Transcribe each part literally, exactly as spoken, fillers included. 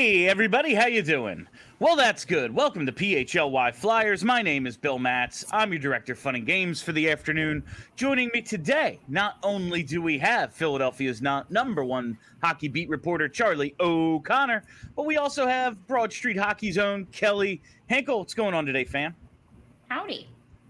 Hey everybody, how you doing? Well, that's good. Welcome to P H L Y Flyers. My name is Bill Matz. I'm your director of fun and games for the afternoon. Joining me today, not only do we have Philadelphia's not number one hockey beat reporter Charlie O'Connor, but we also have Broad Street Hockey's own Kelly Hinkle. What's going on today, fam? Howdy.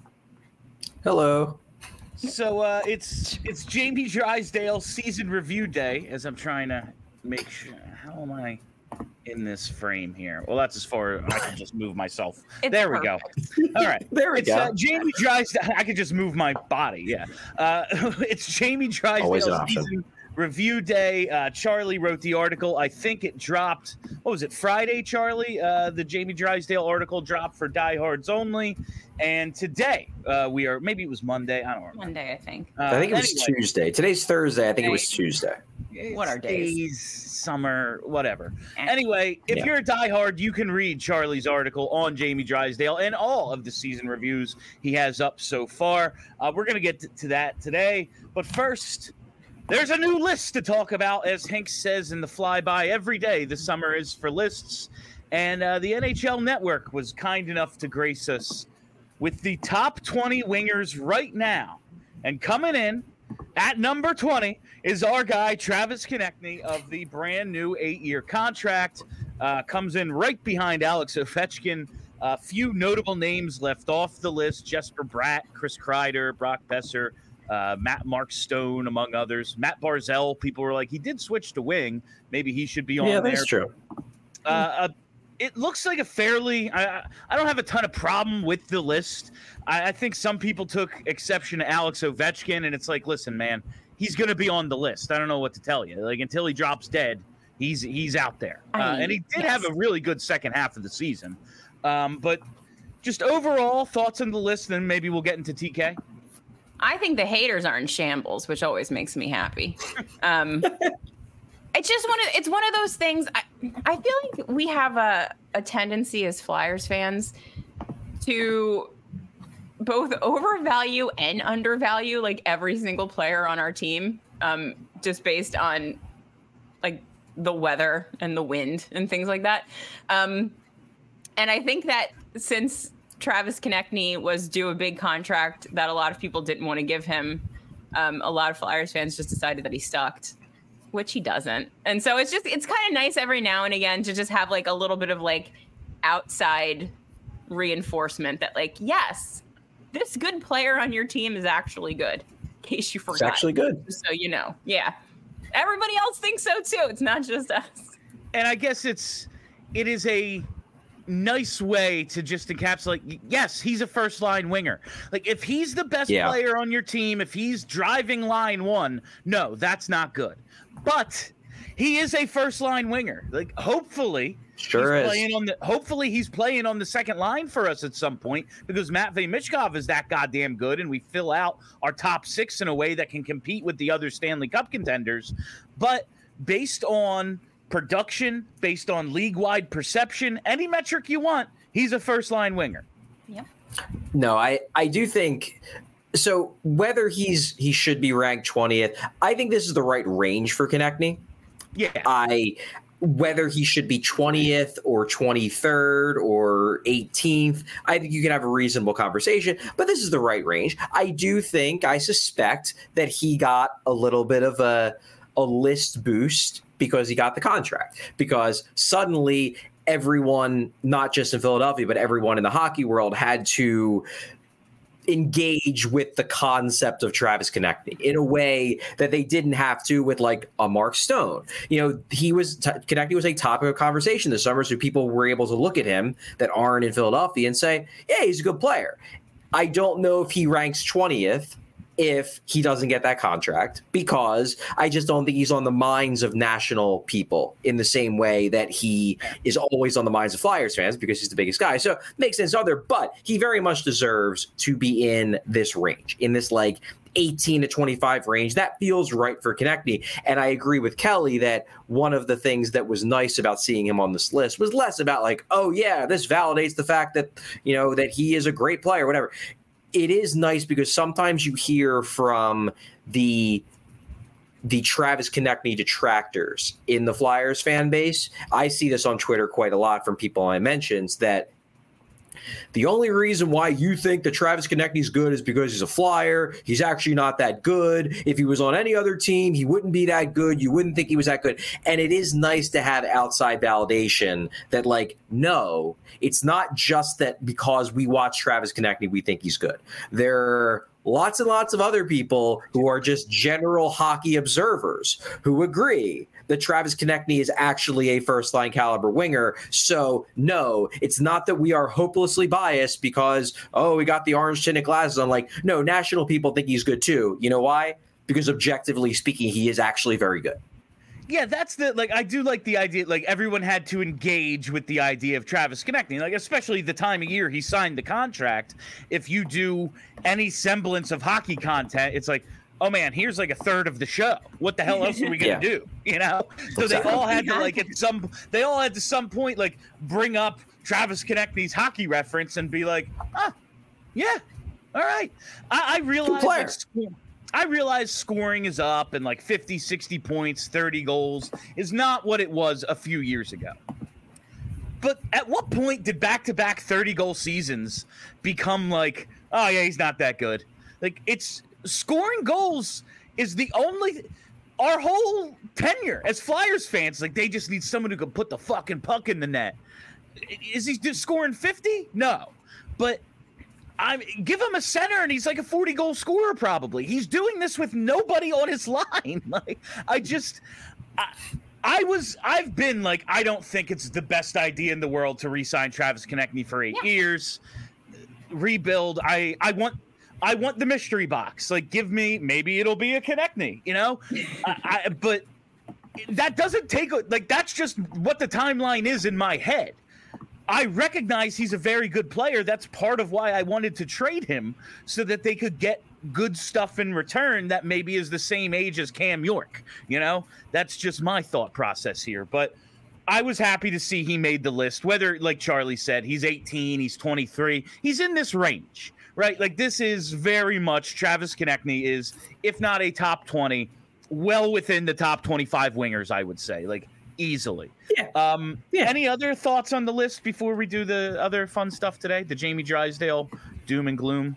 Hello. So uh, it's it's Jamie Drysdale season review day. As I'm trying to make sure, how am I in this frame here? Well, that's as far I can just move myself. It's there we go. All right, there we it's, go. Uh, Jamie Drysdale. I can just move my body. Yeah, uh, it's Jamie Always an Drysdale option. season review day. Uh, Charlie wrote the article. I think it dropped. What was it? Friday, Charlie. Uh, the Jamie Drysdale article dropped for diehards only. And today uh, we are. Maybe it was Monday. I don't remember. Monday, I think. Uh, I think it was anyway, Tuesday. Today's Thursday. I think it was Tuesday. What are days? Days, summer, whatever. Eh. Anyway, if Yeah. you're a diehard, you can read Charlie's article on Jamie Drysdale and all of the season reviews he has up so far. Uh, we're going to get to, to that today. But first, there's a new list to talk about, as Hank says in the flyby every day. The summer is for lists. And uh, the N H L Network was kind enough to grace us with the top twenty wingers right now. And coming in at number twenty is our guy, Travis Konechny, of the brand new eight-year contract. Uh, comes in right behind Alex Ovechkin. A few notable names left off the list: Jesper Bratt, Chris Kreider, Brock Besser, uh, Matt Mark Stone, among others. Matt Barzell, people were like, he did switch to wing. Maybe he should be on Yeah, there. that's true. Uh, uh, it looks like a fairly. I, I don't have a ton of problem with the list. I, I think some people took exception to Alex Ovechkin, and it's like, listen, man, he's going to be on the list. I don't know what to tell you. Like until he drops dead, he's he's out there. I Uh, mean, and he did yes. have a really good second half of the season. Um, but just overall thoughts on the list, then maybe we'll get into T K. I think the haters are in shambles, which always makes me happy. Um, it's just one of it's one of those things. I, I feel like we have a, a tendency as Flyers fans to both overvalue and undervalue like every single player on our team, um, just based on like the weather and the wind and things like that. Um, and I think that since Travis Konechny was due a big contract that a lot of people didn't want to give him, um, a lot of Flyers fans just decided that he sucked, which he doesn't. And so it's just, it's kind of nice every now and again to just have like a little bit of like outside reinforcement that like, yes, this good player on your team is actually good. In case you forgot. It's actually good. So you know, yeah. Everybody else thinks so too. It's not just us. And I guess it's it is a nice way to just encapsulate, yes, he's a first line winger. Like if he's the best Yeah. player on your team, if he's driving line one, no, that's not good. But he is a first line winger. Like hopefully Sure he's is. playing on the hopefully he's playing on the second line for us at some point because Matvei Michkov is that goddamn good and we fill out our top six in a way that can compete with the other Stanley Cup contenders. But based on production, based on league-wide perception, any metric you want, he's a first-line winger. Yep. No, I, I do think so. Whether he's he should be ranked twentieth, I think this is the right range for Konechny. Yeah. I whether he should be twentieth or twenty-third or eighteenth, I think you can have a reasonable conversation, but this is the right range. I do think, I suspect that he got a little bit of a a list boost because he got the contract, because suddenly everyone, not just in Philadelphia, but everyone in the hockey world had to engage with the concept of Travis Konechny in a way that they didn't have to with like a Mark Stone. You know, he was t- Konechny was a topic of conversation this summer, so people were able to look at him that aren't in Philadelphia and say, yeah, he's a good player. I don't know if he ranks twentieth if he doesn't get that contract, because I just don't think he's on the minds of national people in the same way that he is always on the minds of Flyers fans because he's the biggest guy. So makes sense other, but he very much deserves to be in this range, in this like eighteen to twenty-five range. That feels right for Konechny. And I agree with Kelly that one of the things that was nice about seeing him on this list was less about like, oh yeah, this validates the fact that, you know, that he is a great player, whatever. It is nice because sometimes you hear from the the Travis Konechny detractors in the Flyers fan base. I see this on Twitter quite a lot from people I mentioned, that the only reason why you think that Travis Konechny is good is because he's a Flyer. He's actually not that good. If he was on any other team, he wouldn't be that good. You wouldn't think he was that good. And it is nice to have outside validation that, like, no, it's not just that because we watch Travis Konechny, we think he's good. There are lots and lots of other people who are just general hockey observers who agree that Travis Konechny is actually a first-line caliber winger. So, no, it's not that we are hopelessly biased because, oh, we got the orange-tinted glasses on. Like, no, national people think he's good too. You know why? Because objectively speaking, he is actually very good. Yeah, that's the, like, I do like the idea, like, everyone had to engage with the idea of Travis Konechny, like, especially the time of year he signed the contract. If you do any semblance of hockey content, it's like, oh man, here's like a third of the show. What the hell else are we gonna yeah. do? You know? So they all had to like at some they all had to some point like bring up Travis Konechny's hockey reference and be like, ah, yeah, all right. I, I realize like, I realize scoring is up and like fifty, sixty points, thirty goals is not what it was a few years ago. But at what point did back-to-back thirty-goal seasons become like, oh yeah, he's not that good? Like it's scoring goals is the only our whole tenure as Flyers fans, like they just need someone who can put the fucking puck in the net. Is he just scoring fifty? No. But I give him a center and he's like a forty goal scorer probably. He's doing this with nobody on his line. Like I just I, I was I've been like I don't think it's the best idea in the world to re-sign Travis Konechny for eight yeah. years. Rebuild. I I want I want the mystery box. Like, give me, maybe it'll be a Konechny, you know? I, I, but that doesn't take, like, that's just what the timeline is in my head. I recognize he's a very good player. That's part of why I wanted to trade him, so that they could get good stuff in return that maybe is the same age as Cam York, you know? That's just my thought process here. But I was happy to see he made the list, whether, like Charlie said, he's eighteen, he's twenty-three, he's in this range. Right, like this is very much Travis Konechny is, if not a top twenty, well within the top twenty-five wingers, I would say, like easily. Yeah. Um, yeah. Any other thoughts on the list before we do the other fun stuff today? The Jamie Drysdale doom and gloom.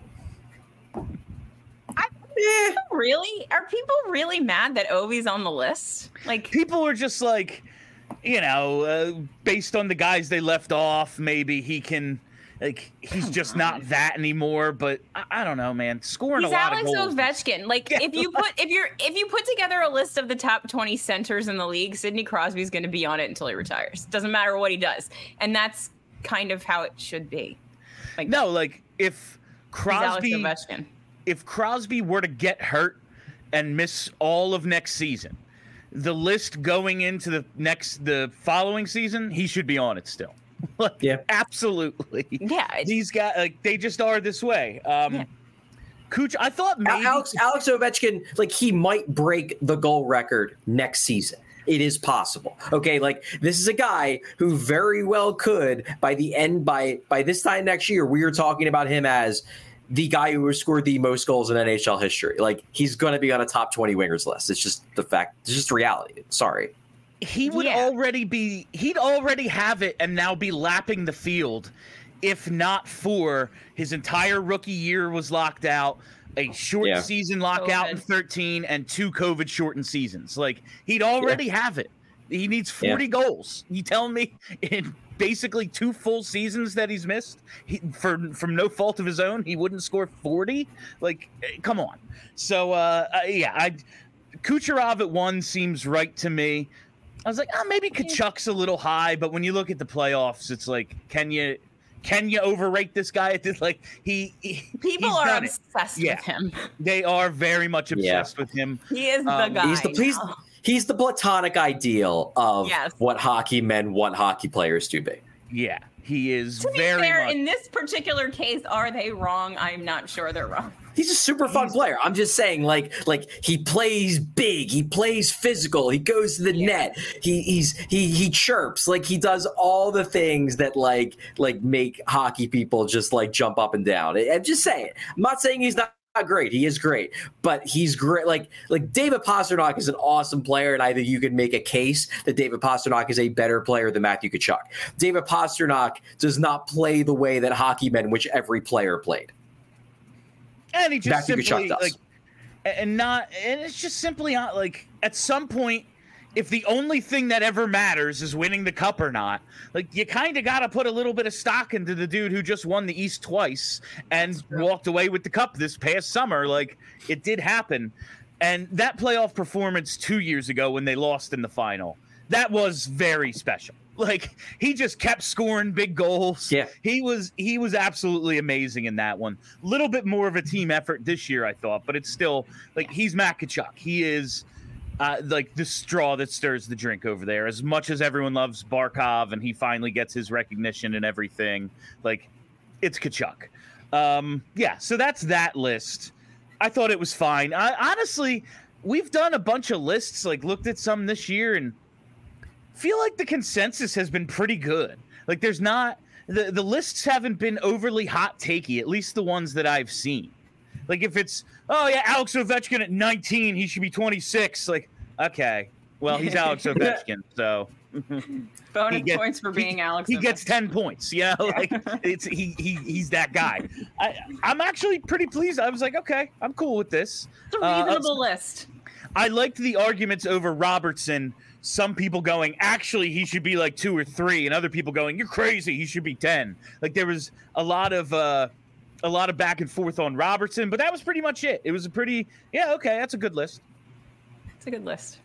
I, yeah. Really? Are people really mad that Ovi's on the list? Like people are just like, you know, uh, based on the guys they left off, maybe he can. Like he's Come just on. not that anymore, but I, I don't know, man. Scoring he's a lot Alex of goals. Ovechkin. Like yeah. if you put if you're if you put together a list of the top twenty centers in the league, Sidney Crosby's going to be on it until he retires. Doesn't matter what he does, and that's kind of how it should be. Like no, like if Crosby, if Crosby were to get hurt and miss all of next season, the list going into the next the following season, he should be on it still. Like, yeah, absolutely. Yeah, these guys, like, they just are this way. Um, yeah. Kuch, I thought maybe Alex Alex Ovechkin, like, he might break the goal record next season. It is possible. Okay, like this is a guy who very well could by the end by by this time next year. We are talking about him as the guy who has scored the most goals in N H L history. Like he's going to be on a top twenty wingers list. It's just the fact. It's just reality. Sorry. He would yeah. already be, he'd already have it and now be lapping the field if not for his entire rookie year was locked out, a short yeah. season lockout COVID. in thirteen, and two COVID shortened seasons. Like, he'd already yeah. have it. He needs forty yeah. goals. You telling me in basically two full seasons that he's missed he, for from no fault of his own, he wouldn't score forty? Like, come on. So, uh, uh, yeah, I Kucherov at one seems right to me. I was like, oh, maybe Kachuk's a little high, but when you look at the playoffs, it's like, can you can you overrate this guy? At this, like he, he people he's are done obsessed it. Yeah. with him. They are very much obsessed yeah. with him. He is the um, guy. He's the he's, he's the platonic ideal of yes. what hockey men want hockey players to be. Yeah, he is to very be fair, much. In this particular case, are they wrong? I'm not sure they're wrong. He's a super fun player. I'm just saying, like, like he plays big, he plays physical, he goes to the yeah. net, he he's he he chirps, like he does all the things that like like make hockey people just like jump up and down. I'm just saying. I'm not saying he's not great. He is great, but he's great. Like like David Pastrnak is an awesome player, and I think you could make a case that David Pastrnak is a better player than Matthew Tkachuk. David Pastrnak does not play the way that hockey men, which every player played. And he just Matthew simply Tkachuk does. like, and not, and it's just simply not like at some point, if the only thing that ever matters is winning the cup or not, like you kind of got to put a little bit of stock into the dude who just won the East twice and walked away with the cup this past summer. Like it did happen. And that playoff performance two years ago when they lost in the final, that was very special. Like he just kept scoring big goals. Yeah. He was he was absolutely amazing in that one. A little bit more of a team effort this year, I thought, but it's still like he's Matt Tkachuk. He is uh, like the straw that stirs the drink over there. As much as everyone loves Barkov and he finally gets his recognition and everything, like it's Tkachuk. Um, yeah, so that's that list. I thought it was fine. I, honestly, we've done a bunch of lists, like looked at some this year and feel like the consensus has been pretty good. Like there's not the, the lists haven't been overly hot takey, at least the ones that I've seen. Like if it's, oh yeah, Alex Ovechkin at nineteen, he should be twenty-six. Like, okay, well, he's Alex Ovechkin, so bonus gets, points for being he, Alex he Ovechkin. gets ten points. Yeah, like it's he he he's that guy. I, I'm actually pretty pleased. I was like, okay, I'm cool with this. It's a reasonable uh, list. I liked the arguments over Robertson. Some people going, actually, he should be like two or three, and other people going, you're crazy, he should be ten. Like there was a lot of uh, a lot of back and forth on Robertson, but that was pretty much it. It was a pretty, yeah, okay, that's a good list. It's a good list.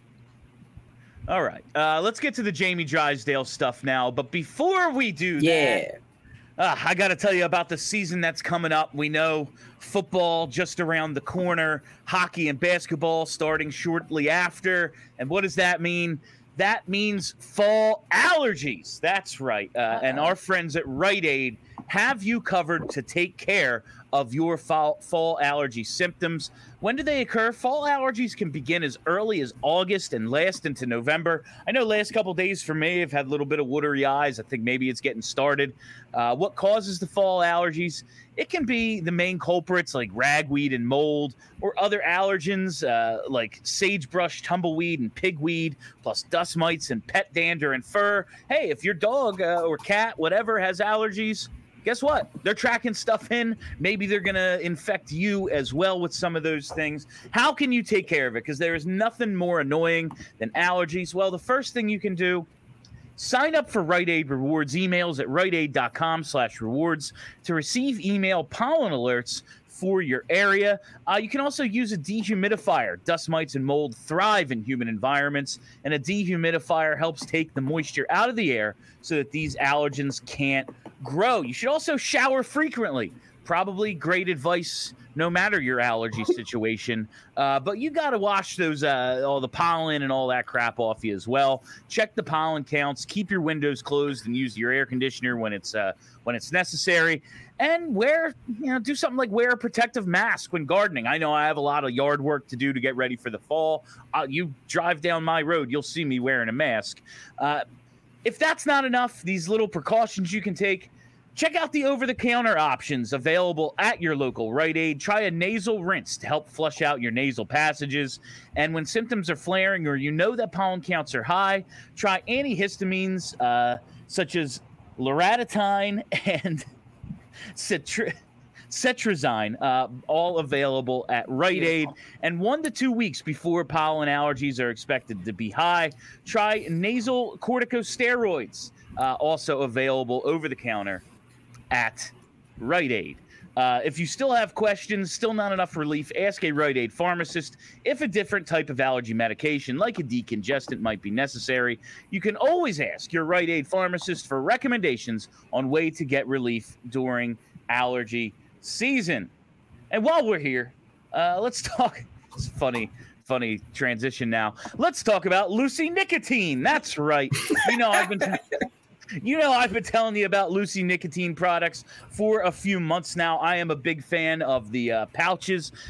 All right, uh, let's get to the Jamie Drysdale stuff now. But before we do Yeah. that, uh, I got to tell you about the season that's coming up. We know football just around the corner, hockey and basketball starting shortly after. And what does that mean? That means fall allergies. That's right. Uh, and our friends at Rite Aid have you covered to take care of your fall, fall allergy symptoms. When do they occur? Fall allergies can begin as early as August and last into November. I know last couple days for me, I've had a little bit of watery eyes. I think maybe it's getting started. Uh, what causes the fall allergies? It can be the main culprits like ragweed and mold, or other allergens uh, like sagebrush, tumbleweed, and pigweed, plus dust mites and pet dander and fur. Hey, if your dog uh, or cat, whatever, has allergies, guess what? They're tracking stuff in. Maybe they're going to infect you as well with some of those things. How can you take care of it? Because there is nothing more annoying than allergies. Well, the first thing you can do, sign up for Rite Aid Rewards emails at riteaid.com slash rewards to receive email pollen alerts for your area. Uh, you can also use a dehumidifier. Dust mites and mold thrive in humid environments, and a dehumidifier helps take the moisture out of the air so that these allergens can't grow. You should also shower frequently. Probably great advice no matter your allergy situation. Uh, but you got to wash those uh, all the pollen and all that crap off you as well. Check the pollen counts. Keep your windows closed and use your air conditioner when it's uh, when it's necessary. And wear, you know, do something like wear a protective mask when gardening. I know I have a lot of yard work to do to get ready for the fall. Uh, you drive down my road, you'll see me wearing a mask. Uh, if that's not enough, these little precautions you can take, check out the over-the-counter options available at your local Rite Aid. Try a nasal rinse to help flush out your nasal passages. And when symptoms are flaring or you know that pollen counts are high, try antihistamines uh, such as loratadine and Cetri- Cetrizine, uh, all available at Rite Aid. And one to two weeks before pollen allergies are expected to be high, try nasal corticosteroids, uh, also available over the counter at Rite Aid. Uh, if you still have questions, still not enough relief, ask a Rite Aid pharmacist if a different type of allergy medication, like a decongestant, might be necessary. You can always ask your Rite Aid pharmacist for recommendations on way to get relief during allergy season. And while we're here, uh, let's talk. It's funny, funny transition now. Let's talk about Lucy Nicotine. That's right. You know, I've been. T- You know, I've been telling you about Lucy nicotine products for a few months now. I am a big fan of the uh, pouches.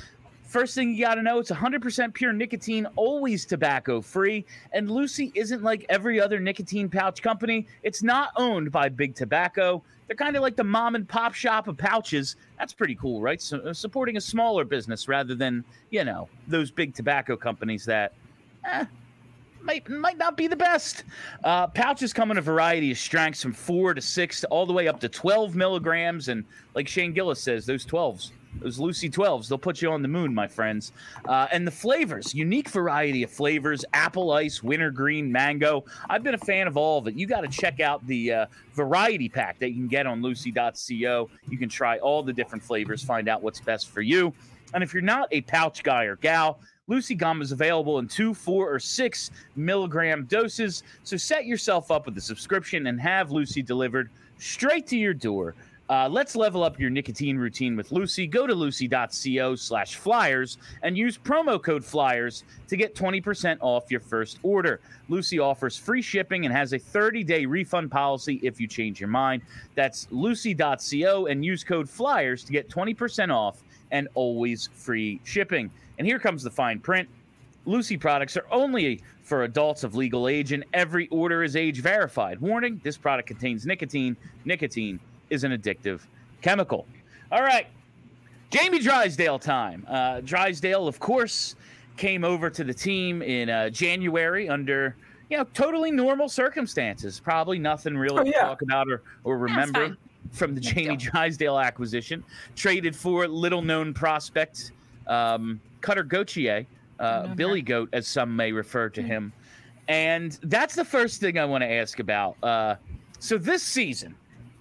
First thing you got to know, it's one hundred percent pure nicotine, always tobacco-free, and Lucy isn't like every other nicotine pouch company. It's not owned by Big Tobacco. They're kind of like the mom and pop shop of pouches. That's pretty cool, right? So, uh, supporting a smaller business rather than, you know, those big tobacco companies that eh, might might not be the best. Uh, pouches come in a variety of strengths from four to six to all the way up to twelve milligrams. And like Shane Gillis says, those twelves, those Lucy twelves, they'll put you on the moon, my friends. Uh, and the flavors, unique variety of flavors, apple ice, wintergreen, mango. I've been a fan of all of it. You got to check out the uh, variety pack that you can get on lucy dot co. You can try all the different flavors, find out what's best for you. And if you're not a pouch guy or gal, Lucy Gum is available in two, four, or six milligram doses. So set yourself up with a subscription and have Lucy delivered straight to your door. Uh, let's level up your nicotine routine with Lucy. Go to lucy dot co slash flyers and use promo code flyers to get twenty percent off your first order. Lucy offers free shipping and has a thirty-day refund policy if you change your mind. That's lucy dot co and use code flyers to get twenty percent off and always free shipping. And here comes the fine print. Lucy products are only for adults of legal age, and every order is age verified. Warning, this product contains nicotine. Nicotine is an addictive chemical. All right, Jamie Drysdale time. Uh, Drysdale, of course, came over to the team in uh, January under, you know, totally normal circumstances. Probably nothing really Oh, yeah. to talk about or, or remember fine. from the Jamie Drysdale acquisition. Traded for little-known prospect um, Cutter Gauthier, uh, know Billy Goat, as some may refer to him. And that's the first thing I want to ask about. Uh, so this season,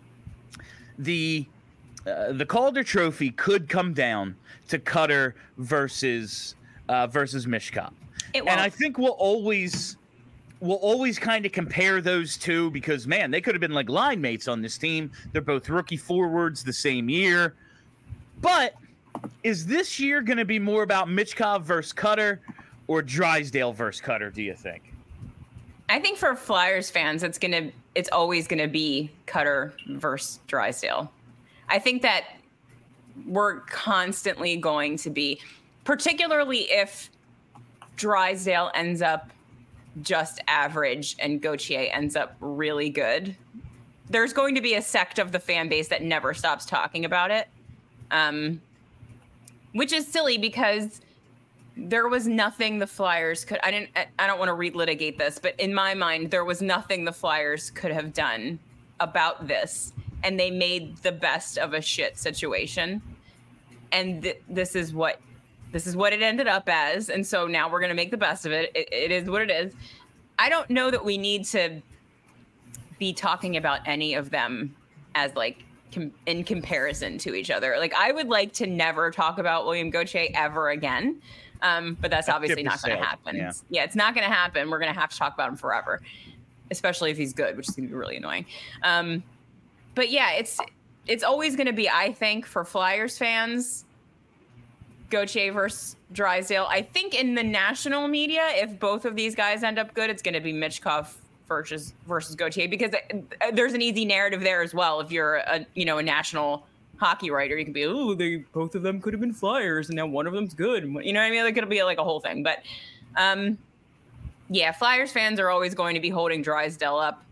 the uh, the Calder Trophy could come down to Cutter versus uh, versus Mishkov, It and won't. I think we'll always we'll always kind of compare those two because man, they could have been like line mates on this team. They're both rookie forwards the same year, but is this year going to be more about Michkov versus Cutter or Drysdale versus Cutter? Do you think? I think for Flyers fans, it's gonna, it's always gonna be Cutter versus Drysdale. I think that we're constantly going to be, particularly if Drysdale ends up just average and Gauthier ends up really good. There's going to be a sect of the fan base that never stops talking about it, um, which is silly because there was nothing the Flyers could. I didn't. I don't want to relitigate this, but in my mind, there was nothing the Flyers could have done about this, and they made the best of a shit situation. And th- this is what this is what it ended up as. And so now we're gonna make the best of it. it. It is what it is. I don't know that we need to be talking about any of them as like com- in comparison to each other. Like I would like to never talk about William Gauthier ever again. Um, but that's obviously not going to happen. Yeah. yeah, it's not going to happen. We're going to have to talk about him forever, especially if he's good, which is going to be really annoying. Um, but yeah, it's it's always going to be, I think, for Flyers fans, Gauthier versus Drysdale. I think in the national media, if both of these guys end up good, it's going to be Michkov versus versus Gauthier because there's an easy narrative there as well. If you're a you know a national hockey writer, you can be, oh, they both of them could have been Flyers, and now one of them's good. You know what I mean? Like, it'll be like a whole thing. But um, yeah, Flyers fans are always going to be holding Drysdale up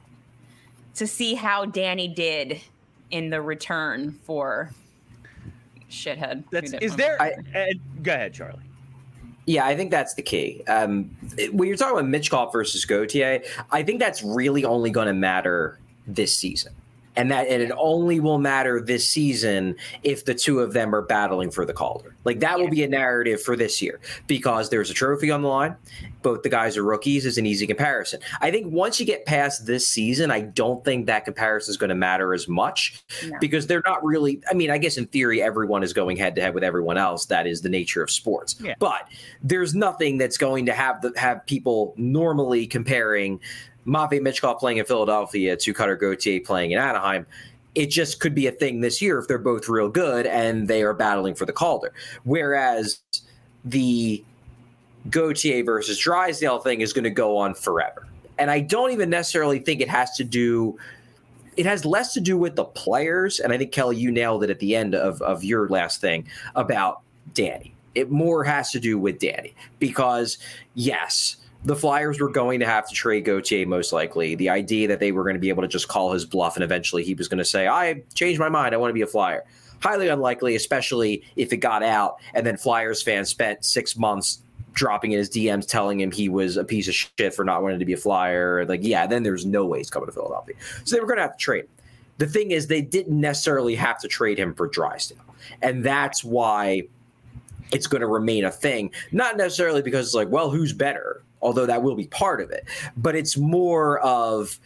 to see how Danny did in the return for shithead. That's is there? I- uh, go ahead, Charlie. Yeah, I think that's the key. Um, when you're talking about Michkov versus Gauthier, I think that's really only going to matter this season. And that and it only will matter this season if the two of them are battling for the Calder. Like that will be a narrative for this year because there's a trophy on the line. Both the guys are rookies is an easy comparison. I think once you get past this season, I don't think that comparison is going to matter as much No. because they're not really. I mean, I guess in theory, everyone is going head to head with everyone else. That is the nature of sports. Yeah. But there's nothing that's going to have the, have people normally comparing Matvei Michkov playing in Philadelphia to Cutter Gauthier playing in Anaheim. It just could be a thing this year if they're both real good and they are battling for the Calder. Whereas the Gauthier versus Drysdale thing is going to go on forever. And I don't even necessarily think it has to do – it has less to do with the players. And I think, Kelly, you nailed it at the end of, of your last thing about Danny. It more has to do with Danny because, yes, the Flyers were going to have to trade Gauthier most likely. The idea that they were going to be able to just call his bluff and eventually he was going to say, I changed my mind. I want to be a Flyer. Highly unlikely, especially if it got out and then Flyers fans spent six months dropping in his D Ms telling him he was a piece of shit for not wanting to be a Flyer. Like, yeah, then there's no way he's coming to Philadelphia. So they were going to have to trade him. The thing is, they didn't necessarily have to trade him for Drysdale. And that's why it's going to remain a thing. Not necessarily because it's like, well, who's better? Although that will be part of it. But it's more of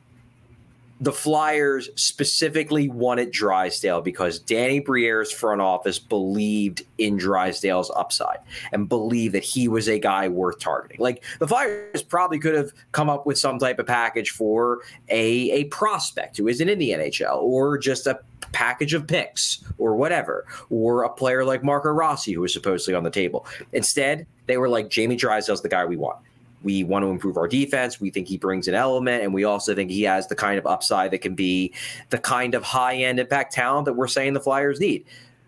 the Flyers specifically wanted Drysdale because Danny Briere's front office believed in Drysdale's upside and believed that he was a guy worth targeting. Like, the Flyers probably could have come up with some type of package for a, a prospect who isn't in the N H L, or just a package of picks or whatever, or a player like Marco Rossi who was supposedly on the table. Instead, they were like, Jamie Drysdale's the guy we want. We want to improve our defense. We think he brings an element, and we also think he has the kind of upside that can be the kind of high-end impact talent that we're saying the Flyers need.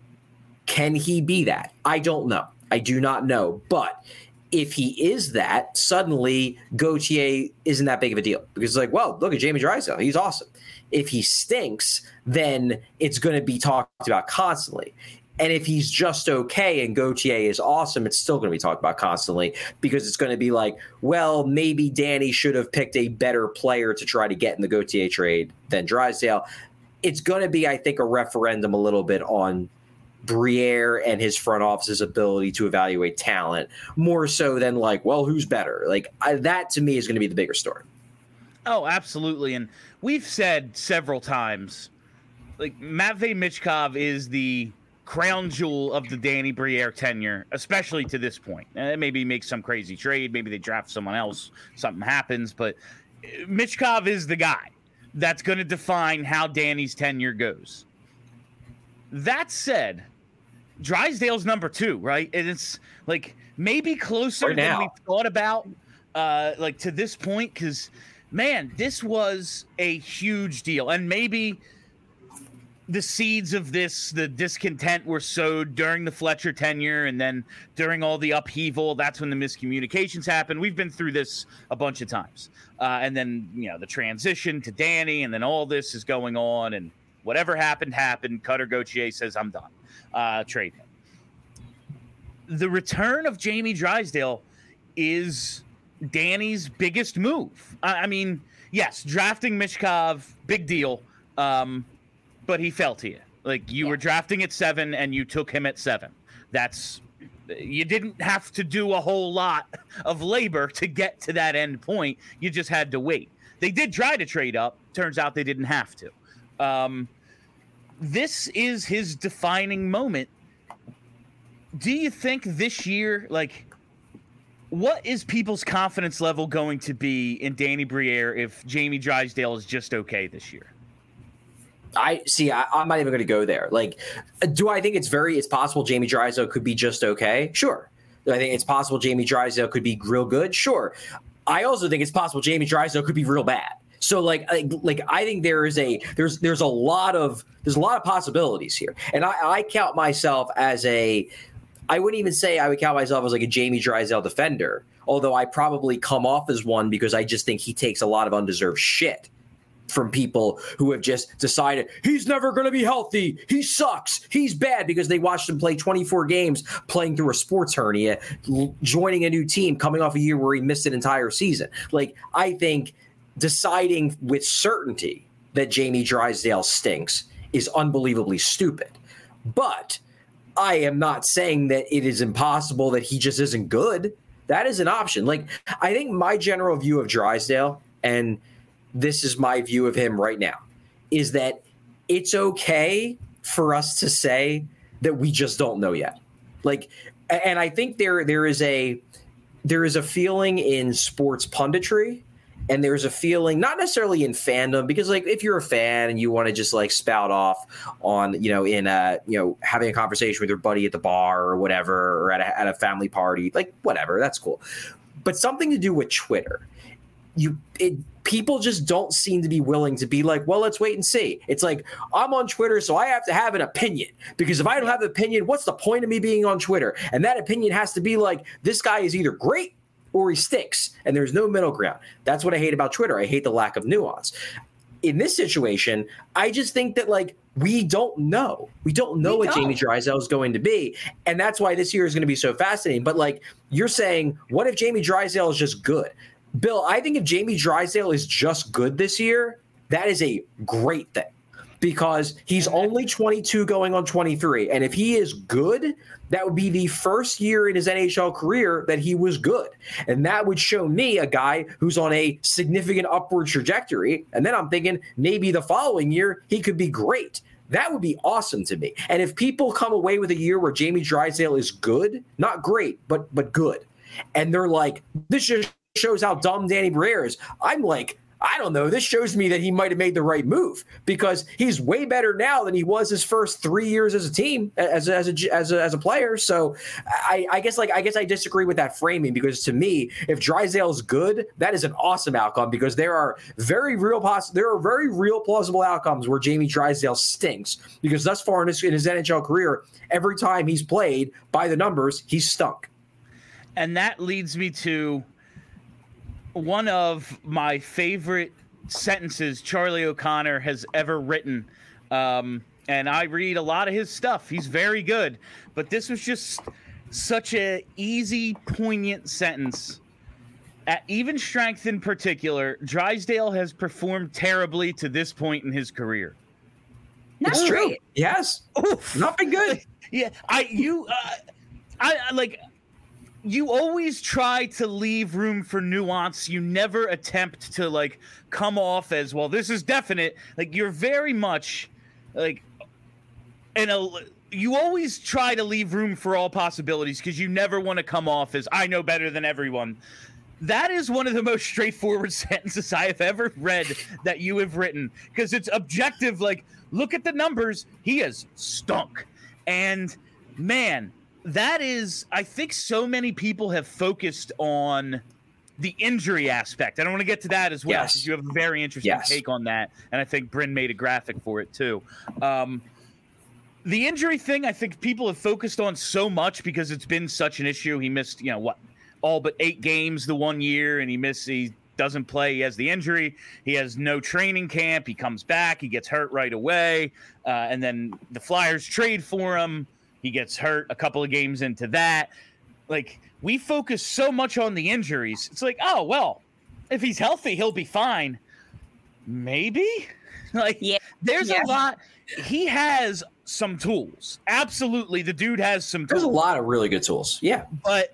Can he be that? I don't know. I do not know. But if he is that, suddenly Gauthier isn't that big of a deal. Because it's like, well, look at Jamie Drysdale. He's awesome. If he stinks, then it's going to be talked about constantly. And if he's just okay and Gauthier is awesome, it's still going to be talked about constantly because it's going to be like, well, maybe Danny should have picked a better player to try to get in the Gauthier trade than Drysdale. It's going to be, I think, a referendum a little bit on Briere and his front office's ability to evaluate talent, more so than like, well, who's better? Like, I, that to me is going to be the bigger story. Oh, absolutely. And we've said several times, like, Matvei Michkov is the crown jewel of the Danny Briere tenure, especially to this point. Uh, maybe make some crazy trade. Maybe they draft someone else. Something happens. But Michkov is the guy that's going to define how Danny's tenure goes. That said, Drysdale's number two, right? And it's like maybe closer than we thought about, uh, like to this point, because, man, this was a huge deal. And maybe the seeds of this, the discontent were sowed during the Fletcher tenure, and then during all the upheaval, that's when the miscommunications happened. We've been through this a bunch of times. Uh, and then, you know, the transition to Danny, and then all this is going on, and whatever happened, happened. Cutter Gauthier says, I'm done. Uh, trade him. The return of Jamie Drysdale is Danny's biggest move. I, I mean, yes, drafting Michkov, big deal. Um, But he fell to you. Like, you yeah. were drafting at seven, and you took him at seven. That's you didn't have to do a whole lot of labor to get to that end point. You just had to wait. They did try to trade up. Turns out they didn't have to. Um, this is his defining moment. Do you think this year, like, what is people's confidence level going to be in Danny Briere if Jamie Drysdale is just okay this year? I see. I, I'm not even going to go there. Like, do I think it's very, it's possible Jamie Drysdale could be just okay? Sure. Do I think it's possible Jamie Drysdale could be real good? Sure. I also think it's possible Jamie Drysdale could be real bad. So like, like, like I think there is a, there's, there's a lot of, there's a lot of possibilities here. And I, I count myself as a, I wouldn't even say I would count myself as like a Jamie Drysdale defender, although I probably come off as one because I just think he takes a lot of undeserved shit from people who have just decided he's never going to be healthy. He sucks. He's bad because they watched him play twenty-four games playing through a sports hernia, l- joining a new team, coming off a year where he missed an entire season. Like, I think deciding with certainty that Jamie Drysdale stinks is unbelievably stupid. But I am not saying that it is impossible that he just isn't good. That is an option. Like, I think my general view of Drysdale, and this is my view of him right now, is that it's okay for us to say that we just don't know yet. Like, and I think there there is a there is a feeling in sports punditry, and there's a feeling not necessarily in fandom, because like if you're a fan and you want to just like spout off on, you know, in a, you know, having a conversation with your buddy at the bar or whatever, or at a, at a family party, like whatever, that's cool. But something to do with Twitter, you it people just don't seem to be willing to be like, well, let's wait and see. It's like, I'm on Twitter, so I have to have an opinion, because if I don't have an opinion, what's the point of me being on Twitter? And that opinion has to be like, this guy is either great or he stinks, and there's no middle ground. That's what I hate about Twitter. I hate the lack of nuance. In this situation, I just think that, like, we don't know. We don't know we what don't. Jamie Drysdale is going to be. And that's why this year is going to be so fascinating. But, like, you're saying, what if Jamie Drysdale is just good? Bill, I think if Jamie Drysdale is just good this year, that is a great thing, because he's only twenty-two going on twenty-three. And if he is good, that would be the first year in his N H L career that he was good. And that would show me a guy who's on a significant upward trajectory. And then I'm thinking maybe the following year he could be great. That would be awesome to me. And if people come away with a year where Jamie Drysdale is good, not great, but but good, and they're like, this just shows how dumb Danny Briere is, I'm like, I don't know. This shows me that he might have made the right move, because he's way better now than he was his first three years as a team, as a, as a, as a, as a player. So I, I guess like I guess I disagree with that framing, because to me, if Drysdale is good, that is an awesome outcome, because there are very real poss- there are very real plausible outcomes where Jamie Drysdale stinks, because thus far in his, in his N H L career, every time he's played by the numbers, he's stunk. And that leads me to one of my favorite sentences Charlie O'Connor has ever written. Um, and I read a lot of his stuff. He's very good. But this was just such a easy, poignant sentence. At even strength in particular, Drysdale has performed terribly to this point in his career. That's it's true. True. Yes. Oof. Not been good. Yeah. I, you, uh, I, I like... You always try to leave room for nuance. You never attempt to, like, come off as, well, this is definite. Like, you're very much, like, in a, you always try to leave room for all possibilities, because you never want to come off as, I know better than everyone. That is one of the most straightforward sentences I have ever read that you have written, because it's objective. Like, look at the numbers. He has stunk. And, man... That is, I think so many people have focused on the injury aspect. I don't want to get to that as well, because yes. you have a very interesting yes. take on that. And I think Bryn made a graphic for it too. Um, the injury thing, I think people have focused on so much because it's been such an issue. He missed, you know, what, all but eight games the one year, and he missed, he doesn't play. He has the injury. He has no training camp. He comes back. He gets hurt right away. Uh, and then the Flyers trade for him. He gets hurt a couple of games into that. Like, we focus so much on the injuries. It's like, oh, well, if he's healthy, he'll be fine. Maybe? Like, yeah. there's yeah. a lot. He has some tools. Absolutely. The dude has some tools. There's a lot of really good tools. Yeah. But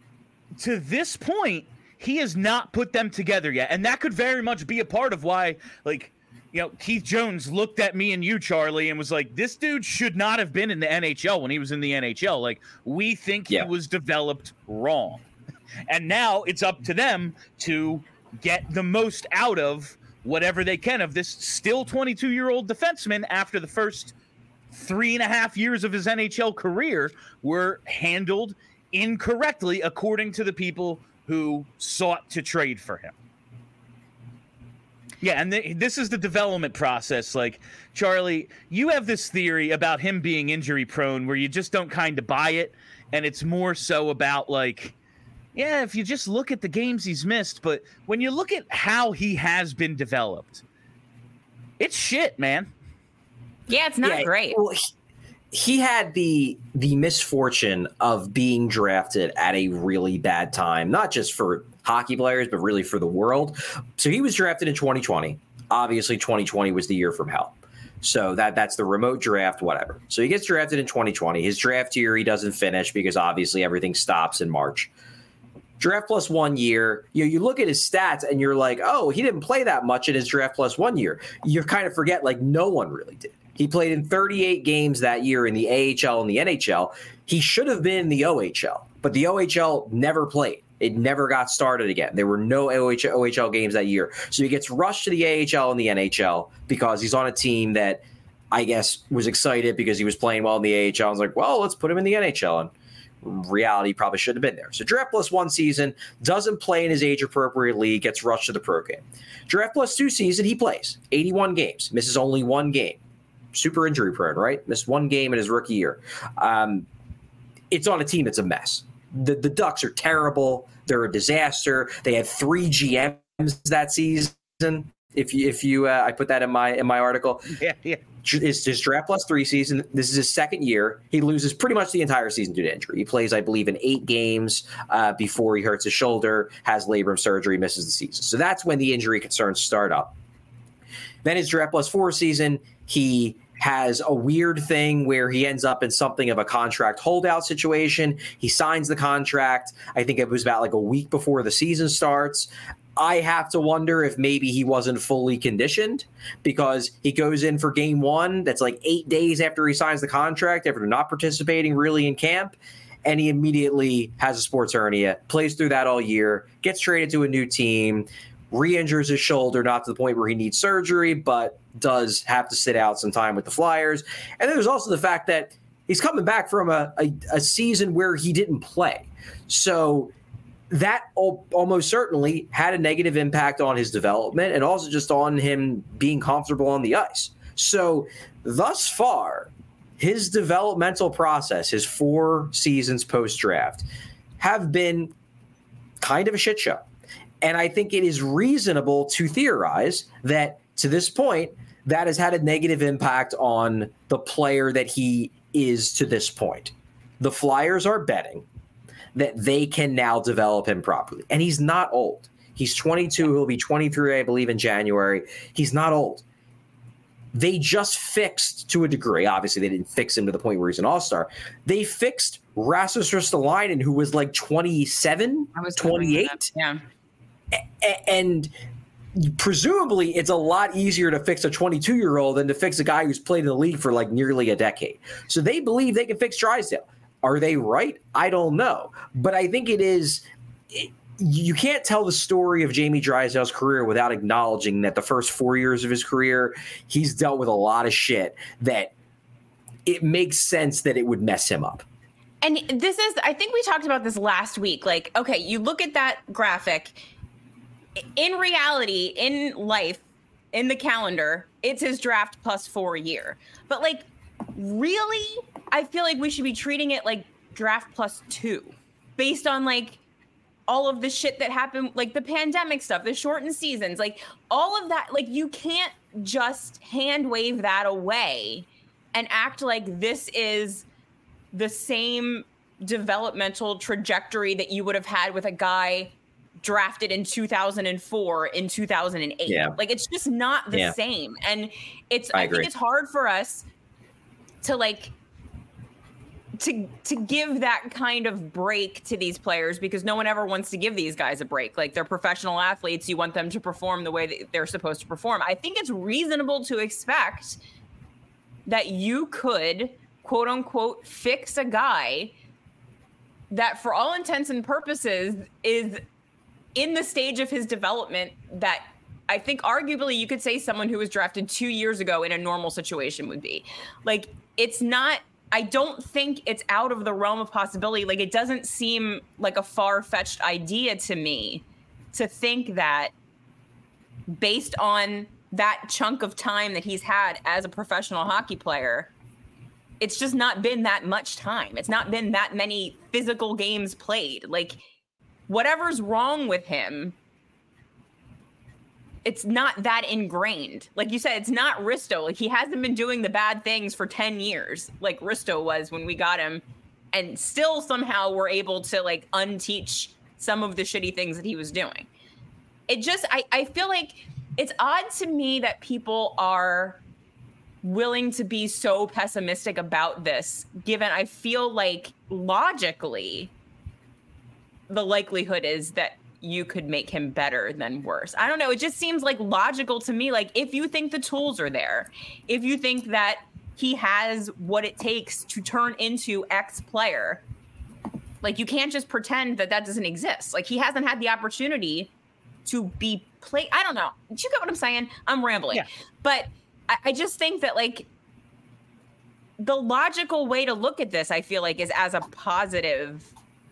to this point, he has not put them together yet. And that could very much be a part of why, like, you know, Keith Jones looked at me and you, Charlie, and was like, this dude should not have been in the N H L when he was in the N H L. Like, we think yeah. he was developed wrong. And now it's up to them to get the most out of whatever they can of this still twenty-two-year-old defenseman after the first three and a half years of his N H L career were handled incorrectly according to the people who sought to trade for him. Yeah, and th- this is the development process. Like, Charlie, you have this theory about him being injury prone where you just don't kind of buy it. And it's more so about, like, yeah, if you just look at the games he's missed. But when you look at how he has been developed, it's shit, man. Yeah, it's not yeah, great. Well, he, he had the the misfortune of being drafted at a really bad time, not just for hockey players, but really for the world. So he was drafted in twenty twenty. Obviously, twenty twenty was the year from hell. So that that's the remote draft, whatever. So he gets drafted in twenty twenty. His draft year, he doesn't finish because obviously everything stops in March. Draft plus one year, you know, you look at his stats and you're like, oh, he didn't play that much in his draft plus one year. You kind of forget, like, no one really did. He played in thirty-eight games that year in the A H L and the N H L. He should have been in the O H L, but the O H L never played. It never got started again. There were no O H L games that year. So he gets rushed to the A H L and the N H L because he's on a team that I guess was excited because he was playing well in the A H L. I was like, well, let's put him in the N H L. And reality probably shouldn't have been there. So Draft Plus one season, doesn't play in his age-appropriate league, gets rushed to the pro game. Draft Plus two season, he plays eighty-one games, misses only one game. Super injury prone, right? Missed one game in his rookie year. Um, it's on a team that's a mess. The, the Ducks are terrible. They're a disaster. They had three G Ms that season. If you, if you, uh, I put that in my in my article. Yeah, yeah. It's his Draft Plus three season. This is his second year. He loses pretty much the entire season due to injury. He plays, I believe, in eight games uh, before he hurts his shoulder, has labrum surgery, misses the season. So that's when the injury concerns start up. Then his Draft Plus four season, he has a weird thing where he ends up in something of a contract holdout situation. He signs the contract. I think it was about like a week before the season starts. I have to wonder if maybe he wasn't fully conditioned because he goes in for game one. That's like eight days after he signs the contract, after not participating really in camp. And he immediately has a sports hernia, plays through that all year, gets traded to a new team, re-injures his shoulder, not to the point where he needs surgery, but does have to sit out some time with the Flyers. And then there's also the fact that he's coming back from a, a, a season where he didn't play. So that almost certainly had a negative impact on his development and also just on him being comfortable on the ice. So thus far, his developmental process, his four seasons post-draft, have been kind of a shit show. And I think it is reasonable to theorize that to this point, that has had a negative impact on the player that he is to this point. The Flyers are betting that they can now develop him properly. And he's not old. He's twenty-two. He'll be twenty-three, I believe, in January. He's not old. They just fixed, to a degree, obviously they didn't fix him to the point where he's an all-star. They fixed Rasmus Ristolainen, who was like twenty-seven, I was twenty-eight. Yeah. And presumably it's a lot easier to fix a twenty-two-year-old than to fix a guy who's played in the league for like nearly a decade. So they believe they can fix Drysdale. Are they right? I don't know. But I think it is it, you can't tell the story of Jamie Drysdale's career without acknowledging that the first four years of his career, he's dealt with a lot of shit that it makes sense that it would mess him up. And this is, I think we talked about this last week. Like, okay, you look at that graphic. In reality, in life, in the calendar, it's his draft plus four year. But like, really, I feel like we should be treating it like draft plus two based on like all of the shit that happened, like the pandemic stuff, the shortened seasons, like all of that. Like, you can't just hand wave that away and act like this is the same developmental trajectory that you would have had with a guy drafted in two thousand four in two thousand eight. Yeah. Like, it's just not the yeah. same. And it's, I, I agree. think it's hard for us to like, to, to give that kind of break to these players because no one ever wants to give these guys a break. Like, they're professional athletes. You want them to perform the way that they're supposed to perform. I think it's reasonable to expect that you could, quote unquote, fix a guy that for all intents and purposes is in the stage of his development that I think arguably you could say someone who was drafted two years ago in a normal situation would be. Like, it's not, I don't think it's out of the realm of possibility. Like, it doesn't seem like a far-fetched idea to me to think that based on that chunk of time that he's had as a professional hockey player, it's just not been that much time. It's not been that many physical games played. Like, whatever's wrong with him, it's not that ingrained. Like you said, it's not Risto. Like, he hasn't been doing the bad things for ten years like Risto was when we got him, and still somehow we're able to like unteach some of the shitty things that he was doing. It just, I, I feel like it's odd to me that people are willing to be so pessimistic about this, given I feel like logically the likelihood is that you could make him better than worse. I don't know. It just seems like logical to me. Like, if you think the tools are there, if you think that he has what it takes to turn into X player, like, you can't just pretend that that doesn't exist. Like, he hasn't had the opportunity to be played. I don't know. Did you get what I'm saying? I'm rambling. Yeah. But I, I just think that, like, the logical way to look at this, I feel like, is as a positive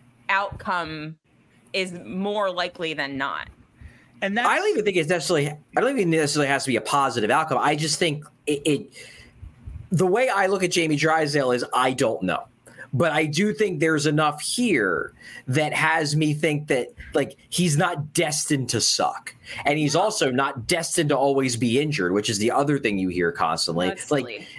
outcome is more likely than not. And that's, I don't even think it's necessarily. I don't even necessarily has to be a positive outcome. I just think it, it. The way I look at Jamie Drysdale is I don't know, but I do think there's enough here that has me think that like he's not destined to suck, and he's also not destined to always be injured, which is the other thing you hear constantly. That's like silly.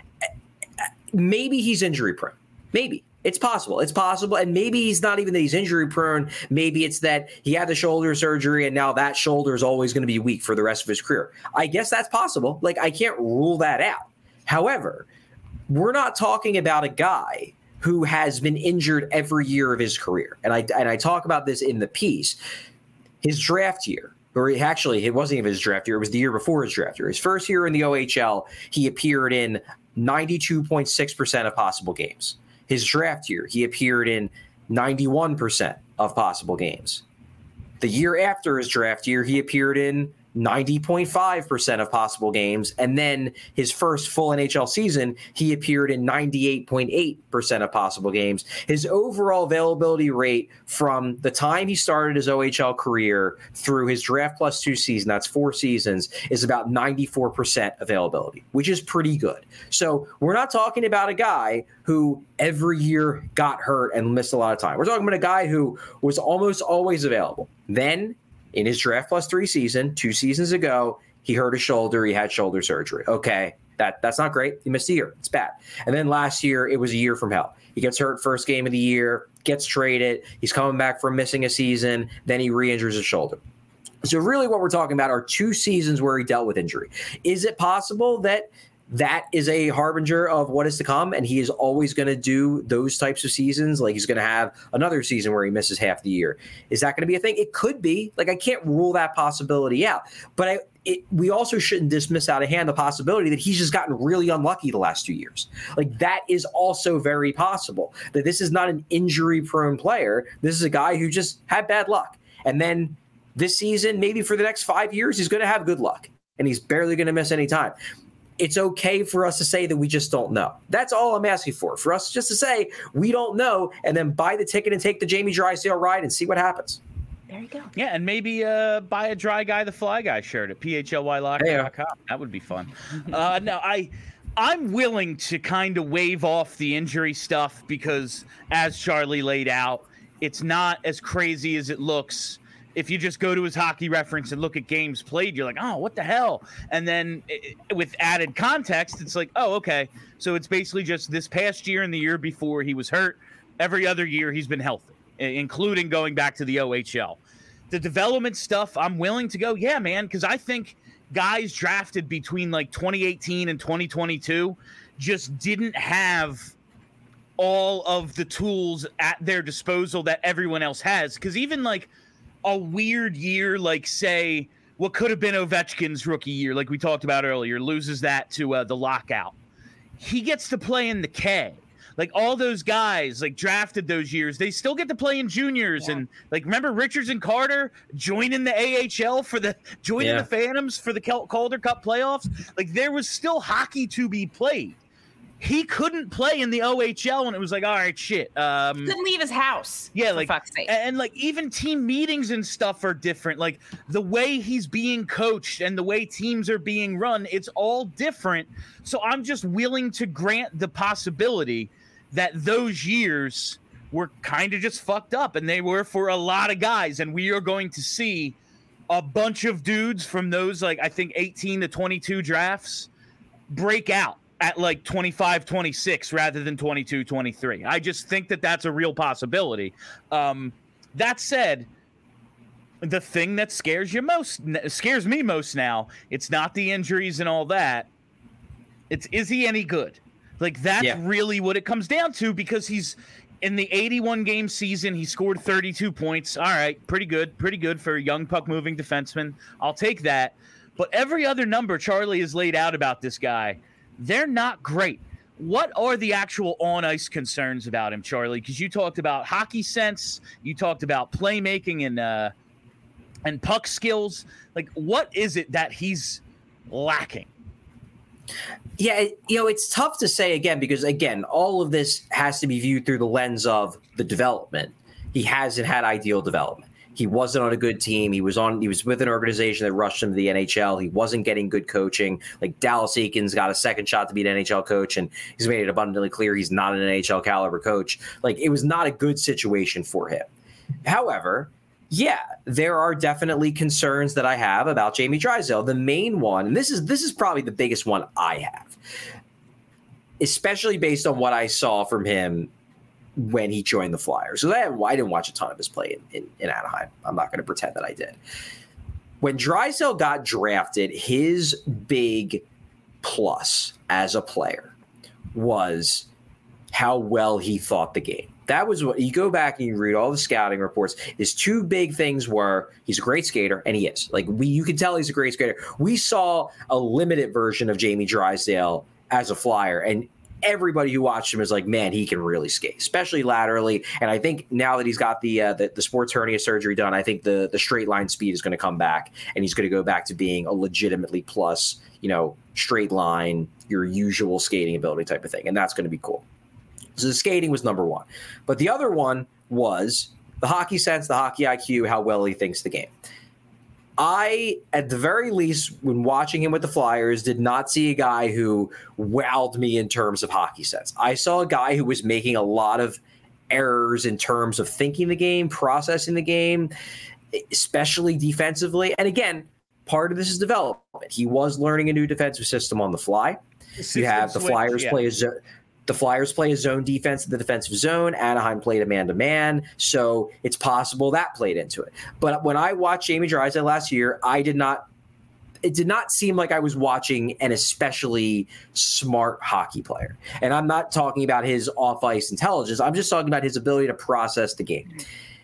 Maybe he's injury prone. Maybe. It's possible. It's possible. And maybe he's not even that he's injury prone. Maybe it's that he had the shoulder surgery and now that shoulder is always going to be weak for the rest of his career. I guess that's possible. Like, I can't rule that out. However, we're not talking about a guy who has been injured every year of his career. And I and I talk about this in the piece. His draft year, or he, actually, it wasn't even his draft year. It was the year before his draft year. His first year in the O H L, he appeared in ninety-two point six percent of possible games. His draft year, he appeared in ninety-one percent of possible games. The year after his draft year, he appeared in ninety point five percent of possible games. And then his first full N H L season, he appeared in ninety-eight point eight percent of possible games. His overall availability rate from the time he started his O H L career through his draft plus two season, that's four seasons, is about ninety-four percent availability, which is pretty good. So we're not talking about a guy who every year got hurt and missed a lot of time. We're talking about a guy who was almost always available. Then in his draft plus three season, two seasons ago, he hurt his shoulder. He had shoulder surgery. Okay, that that's not great. He missed a year. It's bad. And then last year, it was a year from hell. He gets hurt first game of the year, gets traded. He's coming back from missing a season. Then he re-injures his shoulder. So really what we're talking about are two seasons where he dealt with injury. Is it possible that that is a harbinger of what is to come, and he is always going to do those types of seasons? Like, he's going to have another season where he misses half the year. Is that going to be a thing? It could be. Like, I can't rule that possibility out. But I, it, we also shouldn't dismiss out of hand the possibility that he's just gotten really unlucky the last two years. Like, that is also very possible. That this is not an injury-prone player. This is a guy who just had bad luck. And then this season, maybe for the next five years, he's going to have good luck. And he's barely going to miss any time. It's okay for us to say that we just don't know. That's all I'm asking for. For us just to say we don't know and then buy the ticket and take the Jamie Drysdale ride and see what happens. There you go. Yeah, and maybe uh, buy a Dry Guy the Fly Guy shirt at P H L Y locker dot com. That would be fun. uh, no, I, I'm willing to kind of wave off the injury stuff because, as Charlie laid out, it's not as crazy as it looks. If you just go to his hockey reference and look at games played, you're like, oh, what the hell? And then it, with added context, it's like, oh, okay. So it's basically just this past year and the year before he was hurt. Every other year he's been healthy, including going back to the O H L. The development stuff, I'm willing to go, yeah, man, because I think guys drafted between like twenty eighteen and twenty twenty-two just didn't have all of the tools at their disposal that everyone else has. Because even like a weird year, like say what could have been Ovechkin's rookie year, like we talked about earlier, loses that to uh, the lockout. He gets to play in the K. Like all those guys like drafted those years, they still get to play in juniors. Yeah. And like, remember Richards and Carter joining the A H L for the joining yeah. the Phantoms for the Calder Cup playoffs. Like there was still hockey to be played. He couldn't play in the O H L, and it was like, all right, shit. Um, he couldn't leave his house. Yeah, for like, fuck's sake. And, and like even team meetings and stuff are different. Like the way he's being coached and the way teams are being run, it's all different. So I'm just willing to grant the possibility that those years were kind of just fucked up, and they were for a lot of guys. And we are going to see a bunch of dudes from those, like I think eighteen to twenty-two drafts break out at like twenty-five, twenty-six rather than twenty-two, twenty-three. I just think that that's a real possibility. Um, that said, the thing that scares you most, scares me most now, it's not the injuries and all that. It's, is he any good? Like that's yeah. really what it comes down to, because he's in the eighty-one game season, he scored thirty-two points. All right, pretty good, pretty good for a young puck moving defenseman. I'll take that. But every other number Charlie has laid out about this guy, they're not great. What are the actual on-ice concerns about him, Charlie? Because you talked about hockey sense, you talked about playmaking and uh, and puck skills. Like, what is it that he's lacking? Yeah, it, you know, it's tough to say again because, again, all of this has to be viewed through the lens of the development. He hasn't had ideal development. He wasn't on a good team. He was on. He was with an organization that rushed him to the N H L. He wasn't getting good coaching. Like Dallas Eakins got a second shot to be an N H L coach, and he's made it abundantly clear he's not an N H L caliber coach. Like it was not a good situation for him. However, yeah, there are definitely concerns that I have about Jamie Drysdale. The main one, and this is this is probably the biggest one I have, especially based on what I saw from him when he joined the Flyers. So I, I didn't watch a ton of his play in, in, in Anaheim. I'm not going to pretend that I did. When Drysdale got drafted, his big plus as a player was how well he thought the game. That was what you go back and you read all the scouting reports. His two big things were he's a great skater, and he is. Like we, you can tell he's a great skater. We saw a limited version of Jamie Drysdale as a Flyer, and everybody who watched him is like, man, he can really skate, especially laterally. And I think now that he's got the uh, the, the sports hernia surgery done, I think the the straight line speed is going to come back, and he's going to go back to being a legitimately plus, you know, straight line, your usual skating ability type of thing, and that's going to be cool. So the skating was number one. But the other one was the hockey sense, the hockey I Q, how well he thinks the game. I, at the very least, when watching him with the Flyers, did not see a guy who wowed me in terms of hockey sense. I saw a guy who was making a lot of errors in terms of thinking the game, processing the game, especially defensively. And again, part of this is development. He was learning a new defensive system on the fly. You have the switch, Flyers yeah. play a zone. The Flyers play a zone defense in the defensive zone. Anaheim played a man-to-man, so it's possible that played into it. But when I watched Jamie Drysdale last year, I did not – it did not seem like I was watching an especially smart hockey player. And I'm not talking about his off-ice intelligence. I'm just talking about his ability to process the game.